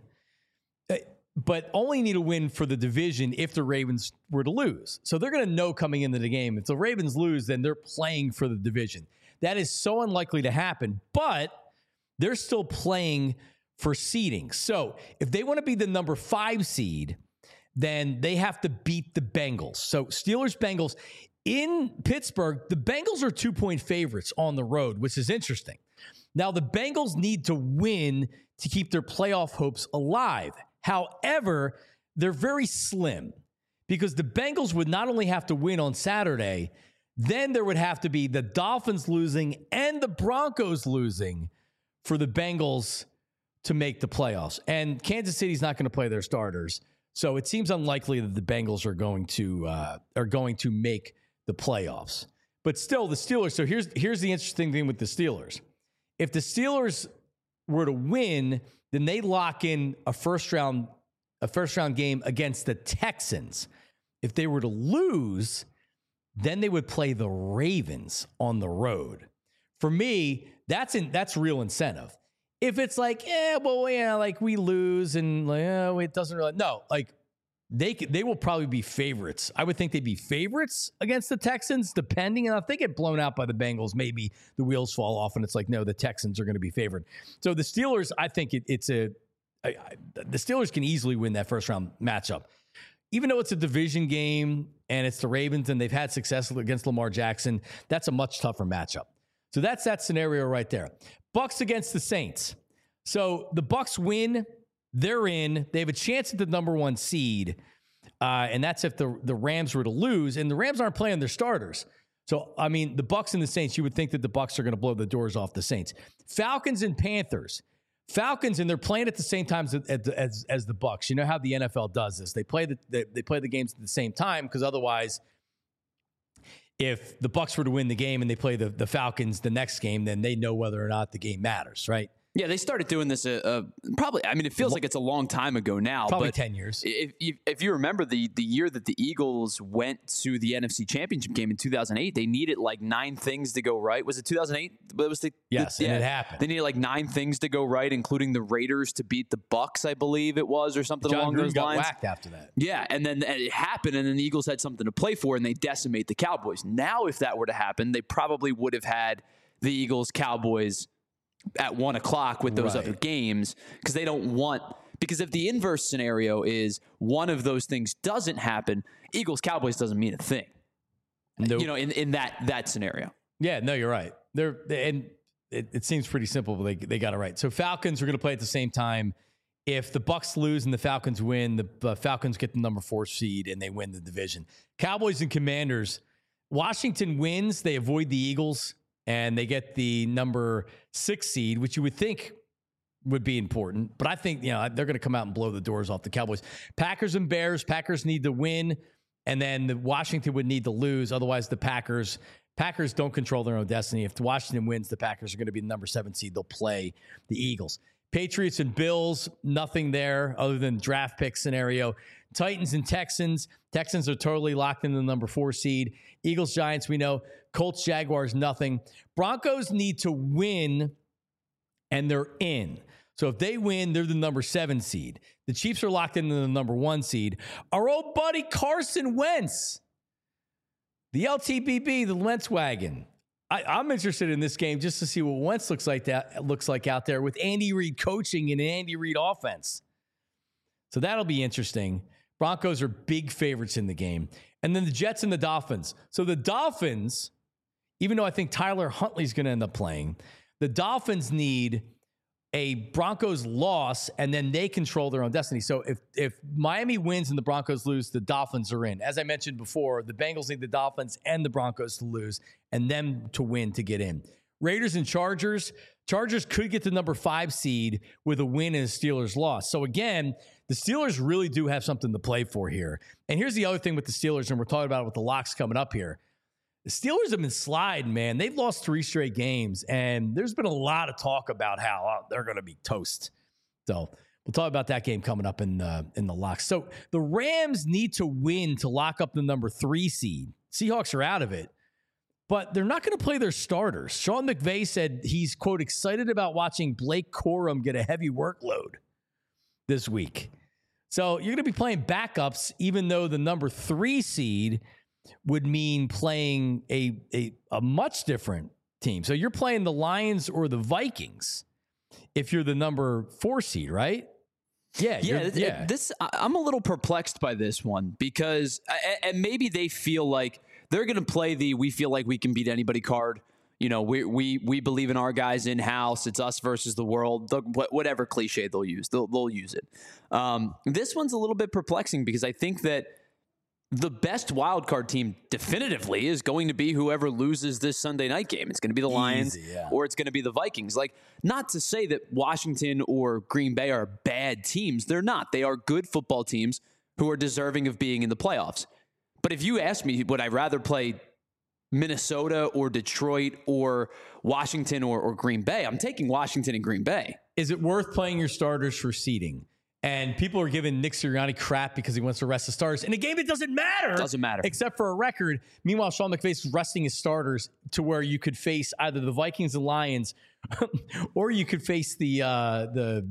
but only need a win for the division if the Ravens were to lose. So they're going to know coming into the game, if the Ravens lose, then they're playing for the division. That is so unlikely to happen, but they're still playing for seeding. So if they want to be the number five seed, then they have to beat the Bengals. So Steelers, Bengals. In Pittsburgh, the Bengals are two-point favorites on the road, which is interesting. Now, the Bengals need to win to keep their playoff hopes alive. However, they're very slim because the Bengals would not only have to win on Saturday, then there would have to be the Dolphins losing and the Broncos losing for the Bengals to make the playoffs. And Kansas City's not going to play their starters, so it seems unlikely that the Bengals are going to uh, are going to make the playoffs. But still, the Steelers, so here's here's the interesting thing with the Steelers. If the Steelers were to win, then they lock in a first round a first round game against the Texans. If they were to lose, then they would play the Ravens on the road. For me, that's in, that's real incentive. If it's like, yeah, well, yeah, like we lose and like, oh, it doesn't really, no, like They they will probably be favorites. I would think they'd be favorites against the Texans, depending. And if they get blown out by the Bengals, maybe the wheels fall off and it's like, no, the Texans are going to be favored. So the Steelers, I think it, it's a, I, I, the Steelers can easily win that first round matchup. even though it's a division game and it's the Ravens and they've had success against Lamar Jackson, that's a much tougher matchup. So that's that scenario right there. Bucks against the Saints. So the Bucks win, they're in. They have a chance at the number one seed, uh, and that's if the, the Rams were to lose. And the Rams aren't playing their starters. So, I mean, the Bucks and the Saints, you would think that the Bucks are going to blow the doors off the Saints. Falcons and Panthers. Falcons, and they're playing at the same time as, as, as the Bucks. You know how the N F L does this. They play the, they, they play the games at the same time because otherwise, if the Bucks were to win the game and they play the, the Falcons the next game, then they know whether or not the game matters, right? Yeah, they started doing this uh, uh, probably, I mean, it feels like it's a long time ago now. Probably but ten years. If, if, if you remember the the year that the Eagles went to the N F C Championship game in two thousand eight, they needed like nine things to go right. Was it two thousand eight? It was the, yes, the, and yeah, it happened. They needed like nine things to go right, including the Raiders to beat the Bucks, I believe it was, or something John along Gruden those got lines. Whacked after that. Yeah, and then and it happened, and then the Eagles had something to play for, and they decimate the Cowboys. Now, if that were to happen, they probably would have had the Eagles, Cowboys at one o'clock with those right. other games because they don't want because if the inverse scenario is one of those things doesn't happen, Eagles Cowboys doesn't mean a thing. Nope. You know, in, in that that scenario. Yeah, no, you're right. They're and it, it seems pretty simple, but they they got it right. So Falcons are going to play at the same time. If the Bucks lose and the Falcons win, the uh, Falcons get the number four seed and they win the division. Cowboys and Commanders. Washington wins, they avoid the Eagles. And they get the number six seed, which you would think would be important. But I think, you know, they're going to come out and blow the doors off the Cowboys. Packers and Bears. Packers need to win. And then the Washington would need to lose. Otherwise, the Packers, Packers don't control their own destiny. If Washington wins, the Packers are going to be the number seven seed. They'll play the Eagles. Patriots and Bills, nothing there other than draft pick scenario. Titans and Texans. Texans are totally locked in the number four seed. Eagles, Giants, we know. Colts, Jaguars, nothing. Broncos need to win, and they're in. So if they win, they're the number seven seed. The Chiefs are locked into the number one seed. Our old buddy Carson Wentz, the L T B B, the Wentz wagon. I, I'm interested in this game just to see what Wentz looks like that looks like out there with Andy Reid coaching and an Andy Reid offense. So that'll be interesting. Broncos are big favorites in the game. And then the Jets and the Dolphins. So the Dolphins, even though I think Tyler Huntley's going to end up playing, the Dolphins need a Broncos loss, and then they control their own destiny. So if if Miami wins and the Broncos lose, the Dolphins are in. As I mentioned before, the Bengals need the Dolphins and the Broncos to lose and them to win to get in. Raiders and Chargers. Chargers could get the number five seed with a win and a Steelers loss. So again, the Steelers really do have something to play for here. And here's the other thing with the Steelers, and we're talking about it with the locks coming up here. The Steelers have been sliding, man. They've lost three straight games, and there's been a lot of talk about how oh, they're going to be toast. So we'll talk about that game coming up in the, in the locks. So the Rams need to win to lock up the number three seed. Seahawks are out of it, but they're not going to play their starters. Sean McVay said he's, quote, excited about watching Blake Corum get a heavy workload this week. So you're going to be playing backups, even though the number three seed would mean playing a, a a much different team. So you're playing the Lions or the Vikings if you're the number four seed, right? Yeah. Yeah. yeah. This I'm a little perplexed by this one because, and maybe they feel like they're going to play the we feel like we can beat anybody card. You know, we we we believe in our guys in house. It's us versus the world. The, whatever cliche they'll use, they'll they'll use it. Um, this one's a little bit perplexing because I think that the best wild card team definitively is going to be whoever loses this Sunday night game. It's going to be the Lions Easy, yeah. or it's going to be the Vikings. Like, not to say that Washington or Green Bay are bad teams. They're not. They are good football teams who are deserving of being in the playoffs. But if you ask me, would I rather play Minnesota or Detroit or Washington or, or Green Bay? I'm taking Washington and Green Bay. Is it worth playing your starters for seeding? And people are giving Nick Sirianni crap because he wants to rest the starters in a game that doesn't matter. Doesn't matter. Except for a record. Meanwhile, Sean McVay's resting his starters to where you could face either the Vikings and Lions or you could face the uh, the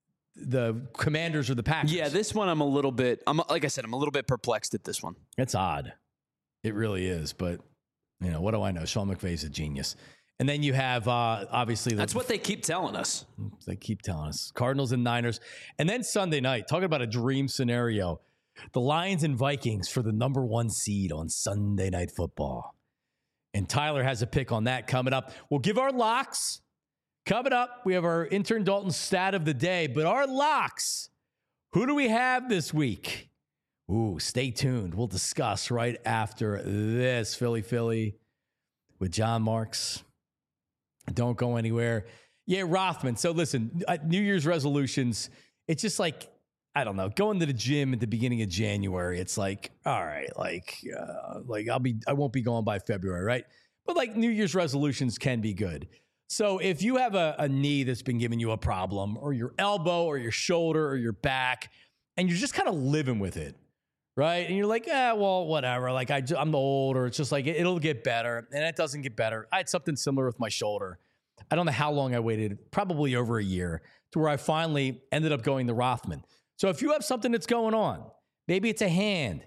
the Commanders or the Packers. Yeah, this one I'm a little bit, I'm like I said, I'm a little bit perplexed at this one. It's odd. It really is. But, you know, what do I know? Sean McVay's a genius. And then you have, uh, obviously... The, That's what they keep telling us. They keep telling us. Cardinals and Niners. And then Sunday night, talking about a dream scenario. The Lions and Vikings for the number one seed on Sunday Night Football. And Tyler has a pick on that coming up. We'll give our locks. Coming up, we have our intern Dalton stat of the day. But our locks, who do we have this week? Ooh, stay tuned. We'll discuss right after this. Philly, Philly with John Marks. Don't go anywhere. Yeah, Rothman. So listen, New Year's resolutions, it's just like, I don't know, going to the gym at the beginning of January. It's like, all right, like, uh, like I'll be, I won't be going by February, right? But like New Year's resolutions can be good. So if you have a, a knee that's been giving you a problem, or your elbow or your shoulder or your back, and you're just kind of living with it, right? And you're like, eh, well, whatever. Like I, I'm old, or it's just like, it'll get better. And it doesn't get better. I had something similar with my shoulder. I don't know how long I waited, probably over a year, to where I finally ended up going to Rothman. So if you have something that's going on, maybe it's a hand,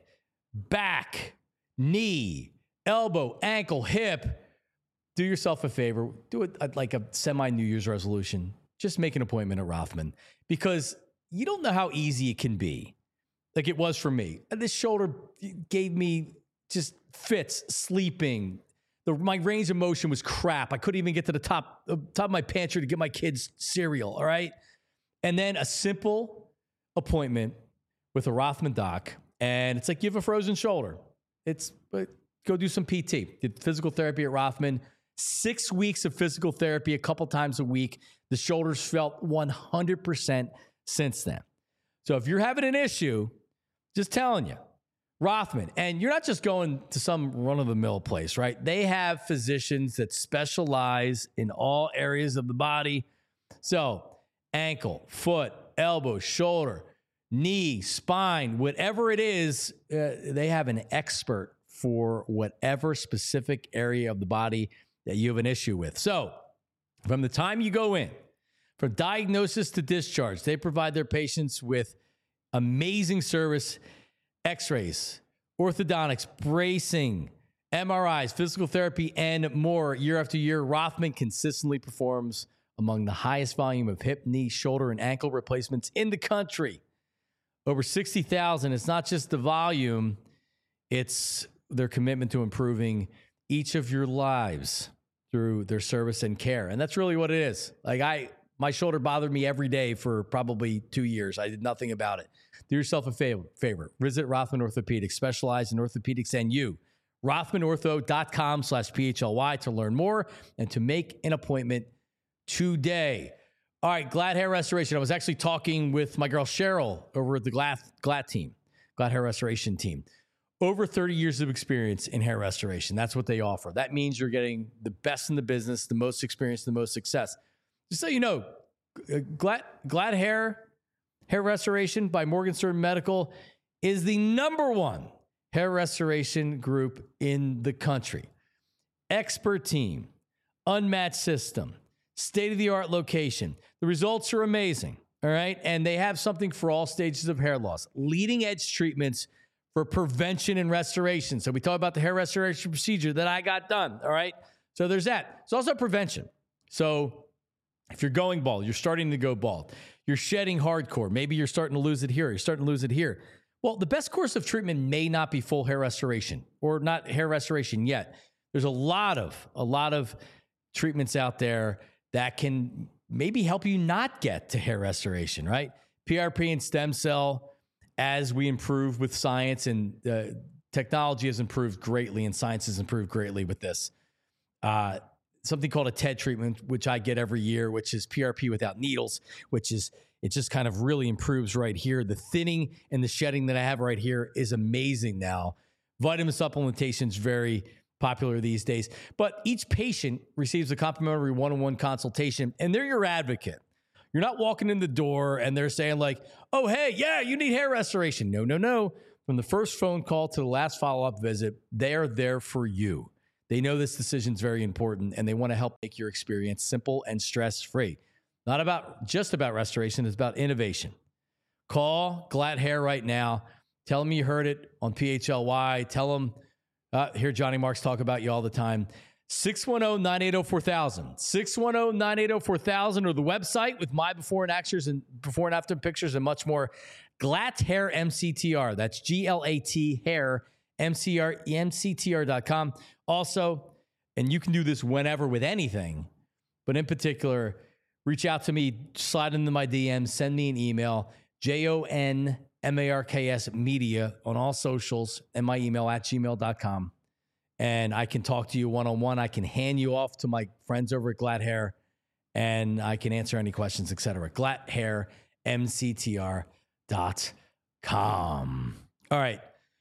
back, knee, elbow, ankle, hip, do yourself a favor. Do it like a semi-New Year's resolution. Just make an appointment at Rothman, because you don't know how easy it can be. Like it was for me. This shoulder gave me just fits, sleeping. The, my range of motion was crap. I couldn't even get to the top, uh, top of my pantry to get my kids cereal, all right? And then a simple appointment with a Rothman doc, and it's like you have a frozen shoulder. It's uh, go do some P T. Did physical therapy at Rothman. Six weeks of physical therapy a couple times a week. The shoulders felt one hundred percent since then. So if you're having an issue, just telling you, Rothman, and you're not just going to some run-of-the-mill place, right? They have physicians that specialize in all areas of the body. So ankle, foot, elbow, shoulder, knee, spine, whatever it is, uh, they have an expert for whatever specific area of the body that you have an issue with. So from the time you go in, from diagnosis to discharge, they provide their patients with amazing service, x-rays, orthodontics, bracing, M R Is, physical therapy, and more. Year after year, Rothman consistently performs among the highest volume of hip, knee, shoulder, and ankle replacements in the country. Over sixty thousand. It's not just the volume, it's their commitment to improving each of your lives through their service and care. And that's really what it is. Like I, my shoulder bothered me every day for probably two years. I did nothing about it. Do yourself a favor. favor. Visit Rothman Orthopedics, specialized in orthopedics and you. Rothmanortho.com slash PHLY to learn more and to make an appointment today. All right, Glad Hair Restoration. I was actually talking with my girl Cheryl over at the Glad, Glad team, Glad Hair Restoration team. Over thirty years of experience in hair restoration. That's what they offer. That means you're getting the best in the business, the most experience, the most success. Just so you know, Glad, Glad Hair, Hair Restoration by Morgenstern Medical is the number one hair restoration group in the country. Expert team, unmatched system, state-of-the-art location. The results are amazing, all right? And they have something for all stages of hair loss. Leading-edge treatments for prevention and restoration. So we talk about the hair restoration procedure that I got done, all right? So there's that. It's also prevention. So if you're going bald, you're starting to go bald, you're shedding hardcore, maybe you're starting to lose it here, you're starting to lose it here. Well, the best course of treatment may not be full hair restoration or not hair restoration yet. There's a lot of, a lot of treatments out there that can maybe help you not get to hair restoration, right? P R P and stem cell, as we improve with science, and uh, technology has improved greatly and science has improved greatly with this. Uh, something called a T E D treatment, which I get every year, which is P R P without needles, which is, it just kind of really improves right here. The thinning and the shedding that I have right here is amazing now. Vitamin supplementation is very popular these days, but each patient receives a complimentary one-on-one consultation, and they're your advocate. You're not walking in the door and they're saying like, oh, hey, yeah, you need hair restoration. No, no, no. From the first phone call to the last follow-up visit, they're there for you. They know this decision is very important, and they want to help make your experience simple and stress-free. Not about just about restoration, it's about innovation. Call Glad Hair right now. Tell them you heard it on P H L Y. Tell them, uh, hear Johnny Marks talk about you all the time. six one zero, nine eight zero, four thousand. six one zero, nine eight zero, four thousand or the website with my before and actors and before and after pictures and much more. Glatt Hair M C T R. That's G L A T Hair M C R M C T R dot com. Also, and you can do this whenever with anything, but in particular, reach out to me, slide into my D Ms, send me an email, J O N M A R K S media on all socials and my email at gmail dot com. And I can talk to you one-on-one. I can hand you off to my friends over at Glatt Hair, and I can answer any questions, et cetera. Glatt Hair M C T R dot com. All right.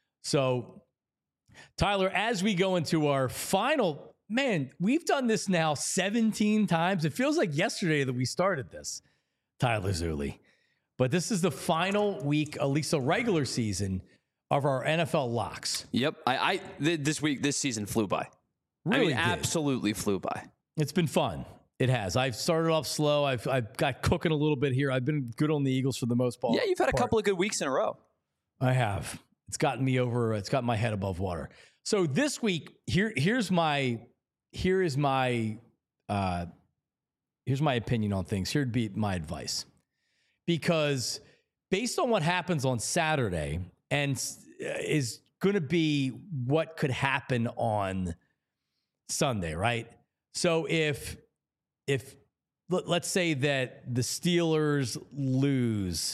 So, Tyler, as we go into our final, man, we've done this now seventeen times. It feels like yesterday that we started this, Tyler Zulli. But this is the final week, at least the regular season, of our N F L locks. Yep. I, I th- this week, this season flew by. Really I mean, did. absolutely flew by. It's been fun. It has. I've started off slow. I've I've got cooking a little bit here. I've been good on the Eagles for the most part. Yeah, you've had a couple of good weeks in a row. I have. It's gotten me over. It's got my head above water. So this week, here here's my here is my uh, here's my opinion on things. Here'd be my advice, because based on what happens on Saturday and is going to be what could happen on Sunday, right? So if if let's say that the Steelers lose,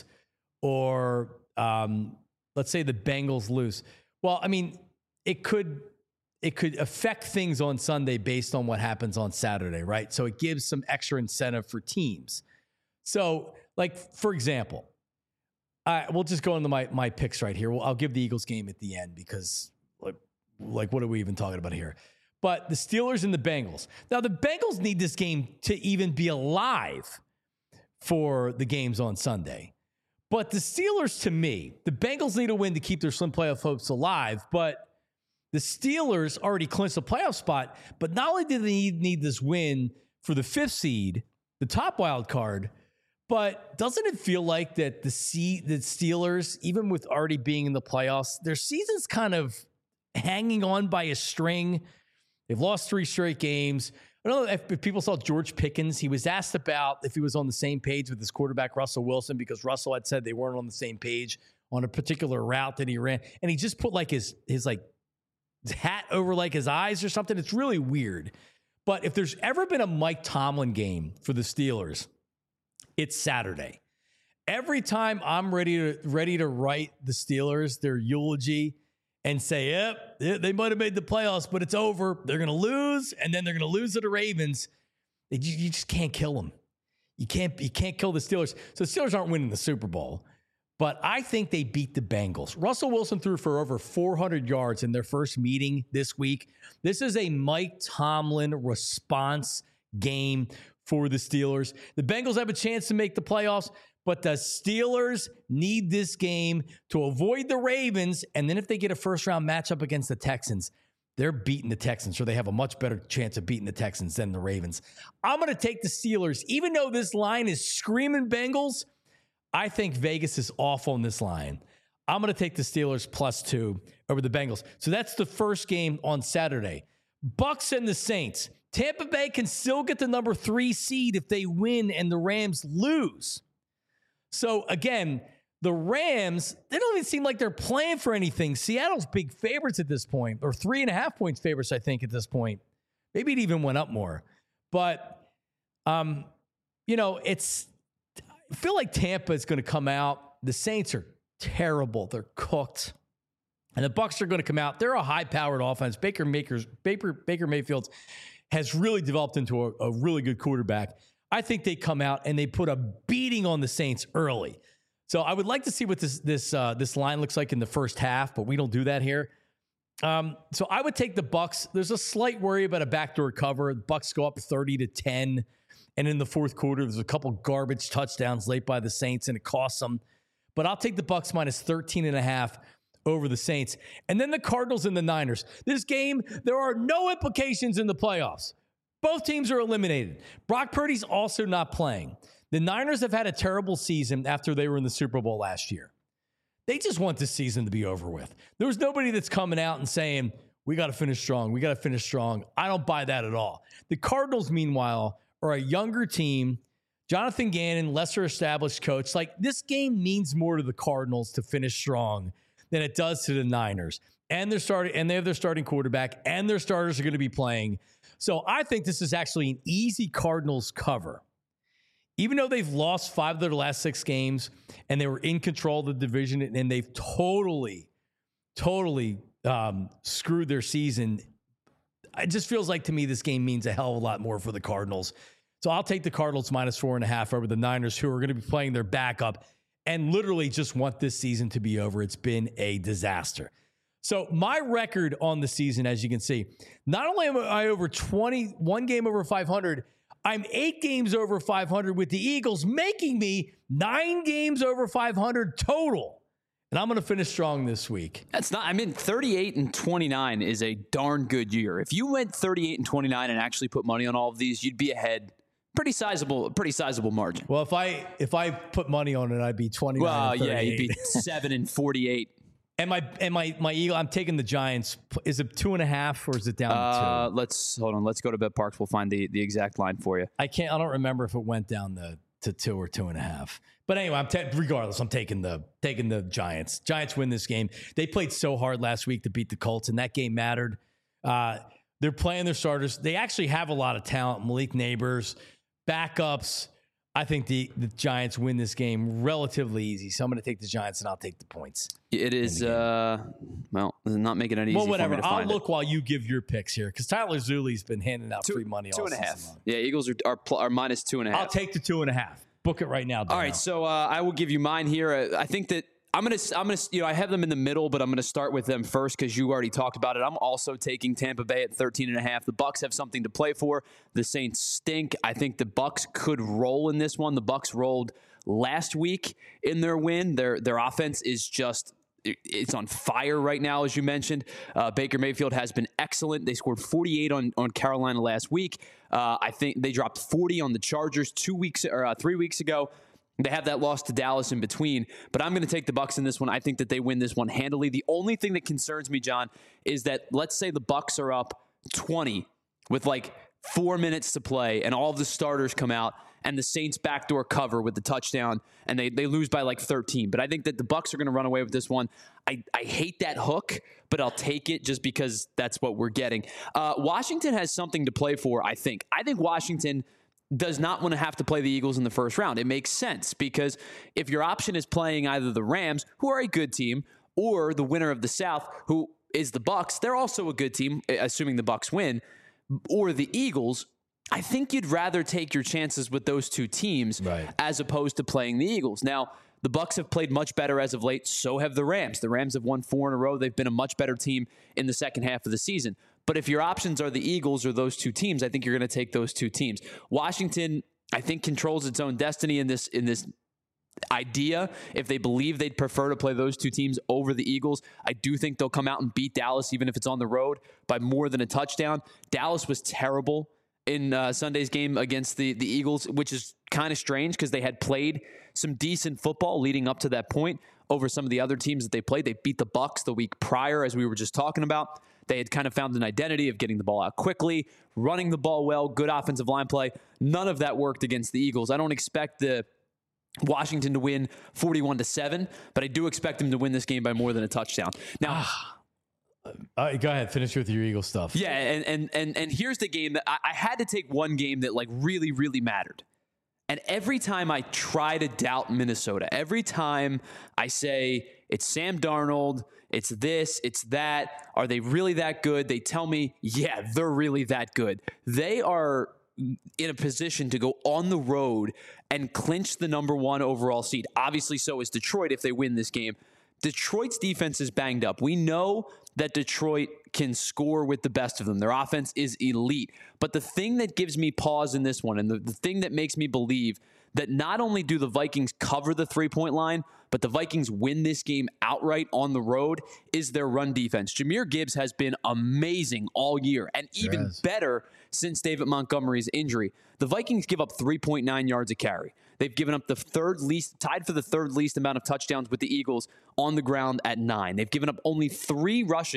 or um, let's say the Bengals lose, well, I mean, it could it could affect things on Sunday based on what happens on Saturday, right? So it gives some extra incentive for teams. So, like for example, I we'll just go into my my picks right here. Well, I'll give the Eagles game at the end because like like what are we even talking about here? But the Steelers and the Bengals. Now, the Bengals need this game to even be alive for the games on Sunday. But the Steelers, to me, the Bengals need a win to keep their slim playoff hopes alive. But the Steelers already clinched a playoff spot. But not only do they need, need this win for the fifth seed, the top wild card, but doesn't it feel like that the, C, the Steelers, even with already being in the playoffs, their season's kind of hanging on by a string? They've lost three straight games. I don't know if, if people saw George Pickens. He was asked about if he was on the same page with his quarterback, Russell Wilson, because Russell had said they weren't on the same page on a particular route that he ran. And he just put like his, his like his hat over like his eyes or something. It's really weird. But if there's ever been a Mike Tomlin game for the Steelers, it's Saturday. Every time I'm ready to, ready to write the Steelers, their eulogy, and say, yep, they might have made the playoffs, but it's over. They're going to lose, and then they're going to lose to the Ravens. You, you just can't kill them. You can't, you can't kill the Steelers. So the Steelers aren't winning the Super Bowl, but I think they beat the Bengals. Russell Wilson threw for over four hundred yards in their first meeting this week. This is a Mike Tomlin response game for the Steelers. The Bengals have a chance to make the playoffs, but the Steelers need this game to avoid the Ravens. And then if they get a first-round matchup against the Texans, they're beating the Texans, or they have a much better chance of beating the Texans than the Ravens. I'm going to take the Steelers. Even though this line is screaming Bengals, I think Vegas is off on this line. I'm going to take the Steelers plus two over the Bengals. So that's the first game on Saturday. Bucks and the Saints. Tampa Bay can still get the number three seed if they win and the Rams lose. So, again, the Rams, they don't even seem like they're playing for anything. Seattle's big favorites at this point, or three and a half points favorites, I think, at this point. Maybe it even went up more. But, um, you know, it's, I feel like Tampa is going to come out. The Saints are terrible. They're cooked. And the Bucs are going to come out. They're a high-powered offense. Baker, Makers, Baker, Baker Mayfield has really developed into a, a really good quarterback. I think they come out and they put a beating on the Saints early. So I would like to see what this this uh, this line looks like in the first half, but we don't do that here. Um, so I would take the Bucs. There's a slight worry about a backdoor cover. The Bucs go up thirty to ten, and in the fourth quarter, there's a couple garbage touchdowns late by the Saints, and it costs them. But I'll take the Bucs minus thirteen and a half over the Saints. And then the Cardinals and the Niners. This game, there are no implications in the playoffs. Both teams are eliminated. Brock Purdy's also not playing. The Niners have had a terrible season after they were in the Super Bowl last year. They just want this season to be over with. There's nobody that's coming out and saying, we got to finish strong. We got to finish strong. I don't buy that at all. The Cardinals, meanwhile, are a younger team. Jonathan Gannon, lesser established coach. Like, this game means more to the Cardinals to finish strong than it does to the Niners. And they're starting, and they have their starting quarterback, and their starters are going to be playing. So I think this is actually an easy Cardinals cover. Even though they've lost five of their last six games and they were in control of the division, and they've totally, totally um, screwed their season, it just feels like to me this game means a hell of a lot more for the Cardinals. So I'll take the Cardinals minus four and a half over the Niners, who are going to be playing their backup and literally just want this season to be over. It's been a disaster. So my record on the season, as you can see, not only am I over twenty, one game over five hundred, I'm eight games over five hundred with the Eagles, making me nine games over five hundred total. And I'm going to finish strong this week. That's not, I mean, thirty-eight and twenty-nine is a darn good year. If you went thirty-eight and twenty-nine and actually put money on all of these, you'd be ahead. Pretty sizable, pretty sizable margin. Well, if I if I put money on it, I'd be twenty-nine. Well, and yeah, you'd be seven and forty-eight. And my and my my Eagle, I'm taking the Giants. Is it two and a half or is it down uh, to two? Let's hold on. Let's go to BetParks. We'll find the, the exact line for you. I can't. I don't remember if it went down the to two or two and a half. But anyway, I'm ta- regardless. I'm taking the taking the Giants. Giants win this game. They played so hard last week to beat the Colts, and that game mattered. Uh, they're playing their starters. They actually have a lot of talent. Malik Neighbors, backups. I think the, the Giants win this game relatively easy. So I'm going to take the Giants, and I'll take the points. It is, uh, well, not making it easy. Well, whatever. For me to I'll find look it. while you give your picks here, because Tyler Zuli's been handing out two, free money two all and a half. long. Yeah, Eagles are, are, pl- are minus two and a half. I'll take the two and a half. Book it right now. Dano. All right, so uh, I will give you mine here. Uh, I think that I'm gonna, I'm gonna, you know, I have them in the middle, but I'm gonna start with them first because you already talked about it. I'm also taking Tampa Bay at thirteen and a half. The Bucs have something to play for. The Saints stink. I think the Bucs could roll in this one. The Bucs rolled last week in their win. Their their offense is just. It's on fire right now, as you mentioned. Uh, Baker Mayfield has been excellent. They scored forty-eight on, on Carolina last week. Uh, I think they dropped forty on the Chargers two weeks or uh, three weeks ago. They have that loss to Dallas in between, but I'm going to take the Bucs in this one. I think that they win this one handily. The only thing that concerns me, John, is that let's say the Bucs are up twenty with like four minutes to play, and all of the starters come out, and the Saints backdoor cover with the touchdown, and they they lose by like thirteen. But I think that the Bucs are going to run away with this one. I, I hate that hook, but I'll take it just because that's what we're getting. Uh, Washington has something to play for, I think. I think Washington does not want to have to play the Eagles in the first round. It makes sense because if your option is playing either the Rams, who are a good team, or the winner of the South, who is the Bucs, they're also a good team, assuming the Bucs win, or the Eagles, I think you'd rather take your chances with those two teams right. as opposed to playing the Eagles. Now, the Bucs have played much better as of late. So have the Rams. The Rams have won four in a row. They've been a much better team in the second half of the season. But if your options are the Eagles or those two teams, I think you're going to take those two teams. Washington, I think, controls its own destiny in this in this idea. If they believe they'd prefer to play those two teams over the Eagles, I do think they'll come out and beat Dallas, even if it's on the road, by more than a touchdown. Dallas was terrible in uh, Sunday's game against the, the Eagles, which is kind of strange because they had played some decent football leading up to that point over some of the other teams that they played. They beat the Bucs the week prior, as we were just talking about. They had kind of found an identity of getting the ball out quickly, running the ball well, good offensive line play. None of that worked against the Eagles. I don't expect the Washington to win forty-one to seven, but I do expect them to win this game by more than a touchdown. Now, All right, go ahead. Finish with your Eagle stuff. yeah, and and and and here's the game that I, I had to take one game that like really, really mattered. And every time I try to doubt Minnesota, every time I say it's Sam Darnold, it's this, it's that, are they really that good? They tell me, yeah, they're really that good. They are in a position to go on the road and clinch the number one overall seed. Obviously, so is Detroit if they win this game. Detroit's defense is banged up. We know that Detroit can score with the best of them. Their offense is elite. But the thing that gives me pause in this one, and the, the thing that makes me believe that not only do the Vikings cover the three-point line, but the Vikings win this game outright on the road, is their run defense. Jahmyr Gibbs has been amazing all year, and even yes. better since David Montgomery's injury. The Vikings give up three point nine yards a carry. They've given up the third least, tied for the third least amount of touchdowns with the Eagles on the ground at nine. They've given up only three rushes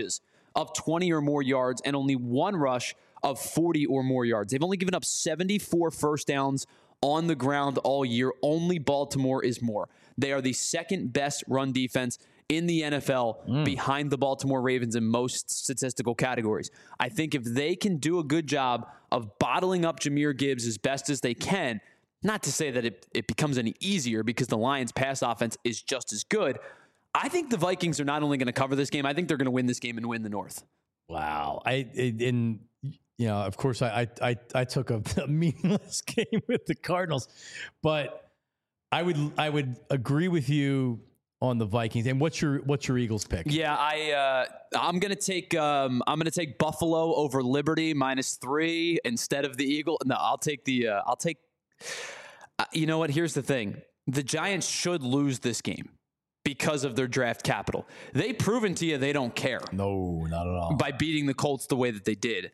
of twenty or more yards and only one rush of forty or more yards. They've only given up seventy-four first downs on the ground all year. Only Baltimore is more. They are the second best run defense in the N F L mm. behind the Baltimore Ravens in most statistical categories. I think if they can do a good job of bottling up Jahmyr Gibbs as best as they can, not to say that it, it becomes any easier because the Lions' pass offense is just as good, I think the Vikings are not only going to cover this game, I think they're going to win this game and win the North. Wow. I in you know, of course, I I I took a, a meaningless game with the Cardinals, but I would I would agree with you on the Vikings. And what's your what's your Eagles pick? Yeah, I uh, I'm gonna take um, I'm gonna take Buffalo over Liberty minus three instead of the Eagle. No, I'll take the uh, I'll take. Uh, you know what? Here's the thing: the Giants should lose this game because of their draft capital. They've proven to you they don't care. No, not at all. By beating the Colts the way that they did.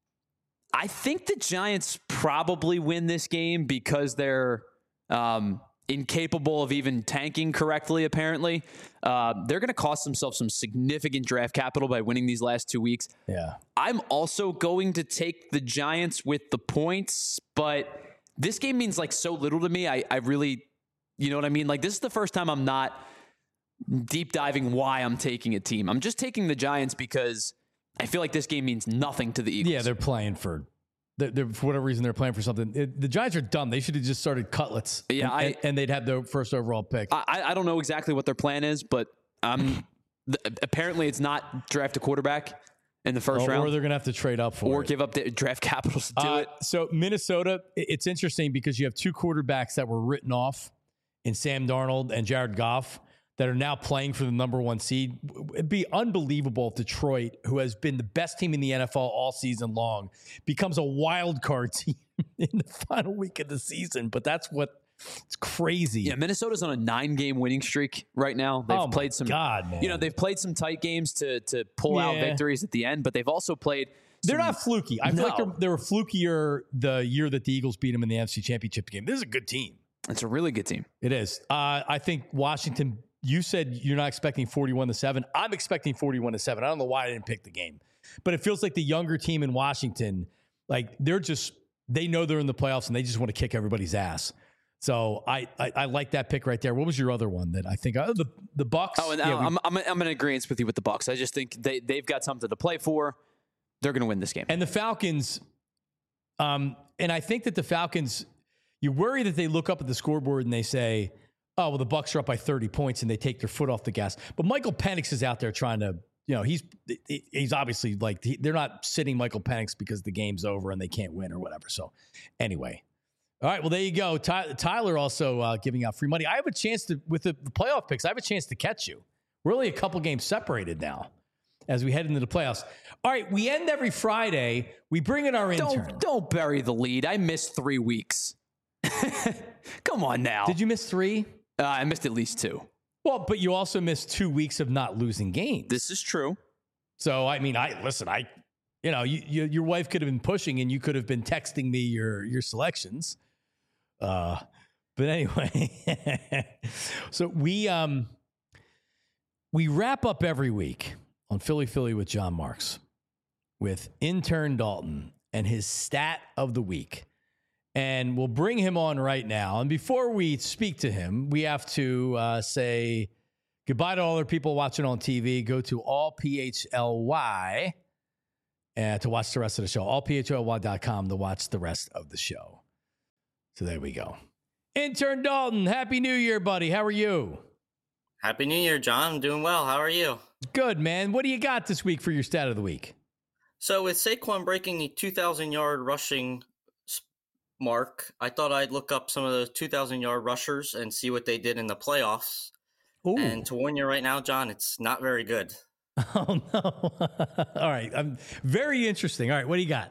I think the Giants probably win this game because they're um, incapable of even tanking correctly, apparently. Uh, they're going to cost themselves some significant draft capital by winning these last two weeks. Yeah. I'm also going to take the Giants with the points, but this game means like so little to me. I, I really, you know what I mean? Like this is the first time I'm not deep diving why I'm taking a team. I'm just taking the Giants because I feel like this game means nothing to the Eagles. Yeah, they're playing for, they're, they're, for whatever reason, they're playing for something. It, the Giants are dumb. They should have just started Cutlets. Yeah, and, I, and, and they'd have the first overall pick. I, I don't know exactly what their plan is, but um, th- apparently it's not draft a quarterback in the first or, round. Or they're going to have to trade up for or it. give up the draft capitals to do uh, it. So Minnesota, it's interesting because you have two quarterbacks that were written off in Sam Darnold and Jared Goff that are now playing for the number one seed. It'd be unbelievable if Detroit, who has been the best team in the N F L all season long, becomes a wild card team in the final week of the season. But that's what it's crazy. Yeah, Minnesota's on a nine-game winning streak right now. They've oh played some, God, man. You know, they've played some tight games to to pull yeah. out victories at the end, but they've also played. They're some, not fluky. I feel no. like they're, they were flukier the year that the Eagles beat them in the N F C Championship game. This is a good team. It's a really good team. It is. Uh, I think Washington. You said you're not expecting forty-one to seven. I'm expecting forty-one to seven. I don't know why I didn't pick the game, but it feels like the younger team in Washington, like they're just, they know they're in the playoffs and they just want to kick everybody's ass. So I, I, I like that pick right there. What was your other one that I think oh, the the Bucks? Oh, and yeah, I'm, I'm I'm in agreement with you with the Bucks. I just think they they've got something to play for. They're going to win this game. And the Falcons, um, and I think that the Falcons, you worry that they look up at the scoreboard and they say, oh, well, the Bucks are up by thirty points and they take their foot off the gas. But Michael Penix is out there trying to, you know, he's he's obviously like, he, they're not sitting Michael Penix because the game's over and they can't win or whatever. So anyway. All right, well, there you go. Ty, Tyler also uh, giving out free money. I have a chance to, with the, the playoff picks, I have a chance to catch you. We're only a couple games separated now as we head into the playoffs. All right, we end every Friday. We bring in our intern. Don't, don't bury the lead. I missed three weeks. Come on now. Did you miss three? Uh, I missed at least two. Well, but you also missed two weeks of not losing games. This is true. So, I mean, I listen, I, you know, you, you, your wife could have been pushing and you could have been texting me your, your selections. Uh, but anyway, so we, um, we wrap up every week on Philly Philly with John Marks with intern Dalton and his stat of the week. And we'll bring him on right now. And before we speak to him, we have to uh, say goodbye to all our people watching on T V. Go to all P H L Y uh, to watch the rest of the show. all P H L Y dot com to watch the rest of the show. So there we go. Intern Dalton, Happy New Year, buddy. How are you? Happy New Year, John. I'm doing well. How are you? Good, man. What do you got this week for your stat of the week? So with Saquon breaking the two thousand yard rushing mark, I thought I'd look up some of the two thousand yard rushers and see what they did in the playoffs. Ooh. And to warn you right now, John, it's not very good. Oh, no. All right. I'm very interesting. All right. What do you got?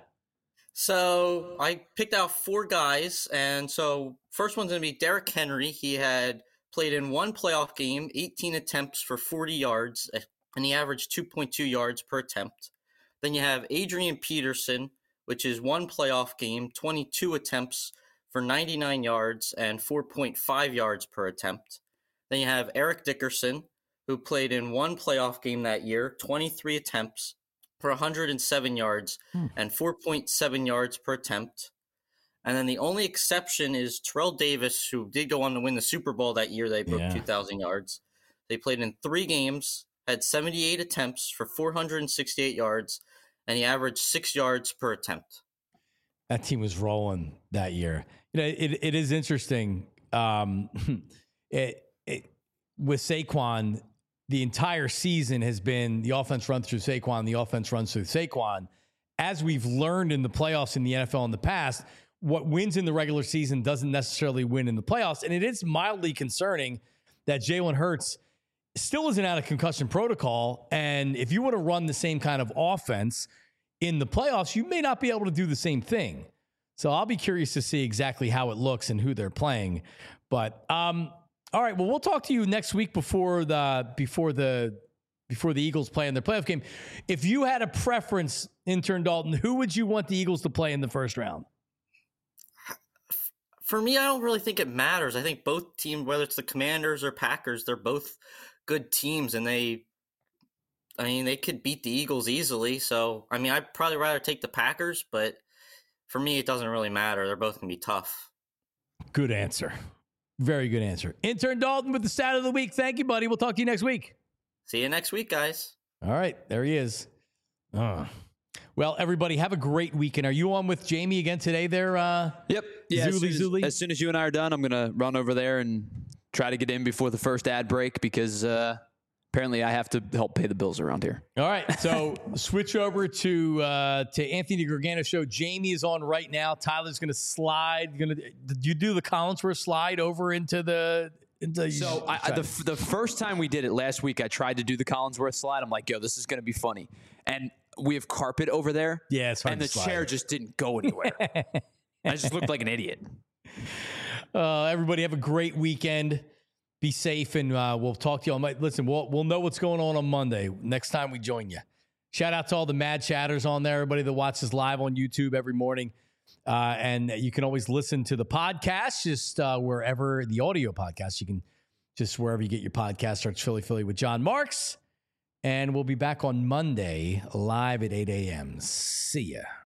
So I picked out four guys. And so first one's going to be Derrick Henry. He had played in one playoff game, eighteen attempts for forty yards, and he averaged two point two yards per attempt. Then you have Adrian Peterson, which is one playoff game, twenty-two attempts for ninety-nine yards and four point five yards per attempt. Then you have Eric Dickerson, who played in one playoff game that year, twenty-three attempts for one hundred seven yards hmm. and four point seven yards per attempt. And then the only exception is Terrell Davis, who did go on to win the Super Bowl that year. They broke yeah. two thousand yards. They played in three games, had seventy-eight attempts for four hundred sixty-eight yards, and he averaged six yards per attempt. That team was rolling that year. You know, it it is interesting. Um, it, it with Saquon, the entire season has been the offense runs through Saquon, the offense runs through Saquon. As we've learned in the playoffs in the N F L in the past, what wins in the regular season doesn't necessarily win in the playoffs. And it is mildly concerning that Jalen Hurts still isn't out of concussion protocol. And if you want to run the same kind of offense in the playoffs, you may not be able to do the same thing. So I'll be curious to see exactly how it looks and who they're playing. But um, all right, well, we'll talk to you next week before the before the before the Eagles play in their playoff game. If you had a preference, intern Dalton, who would you want the Eagles to play in the first round? For me, I don't really think it matters. I think both teams, whether it's the Commanders or Packers, they're both good teams, and they, I mean, they could beat the Eagles easily. So, I mean, I'd probably rather take the Packers, but for me, it doesn't really matter. They're both going to be tough. Good answer. Very good answer. Intern Dalton with the stat of the week. Thank you, buddy. We'll talk to you next week. See you next week, guys. All right. There he is. Oh. Well, everybody, have a great weekend. Are you on with Jamie again today there? Uh, yep. Yeah, Zuli, as, soon as, Zuli? as soon as you and I are done, I'm going to run over there and try to get in before the first ad break because uh, apparently I have to help pay the bills around here. All right. So switch over to uh, to Anthony Gargano show. Jamie is on right now. Tyler's going to slide. Going to did you do the Collinsworth slide over into the into So I, I, the the first time we did it last week, I tried to do the Collinsworth slide. I'm like, yo, this is going to be funny. And we have carpet over there. Yeah, it's hard and to the slide. chair just didn't go anywhere. I just looked like an idiot. Uh, everybody have a great weekend. Be safe, and uh, we'll talk to you on. Listen, we'll we'll know what's going on on Monday next time we join you. Shout out to all the mad chatters on there, everybody that watches live on YouTube every morning, uh, and you can always listen to the podcast just uh, wherever the audio podcast. You can just wherever you get your podcast. Search Philly Philly with John Marks, and we'll be back on Monday live at eight a.m. See ya.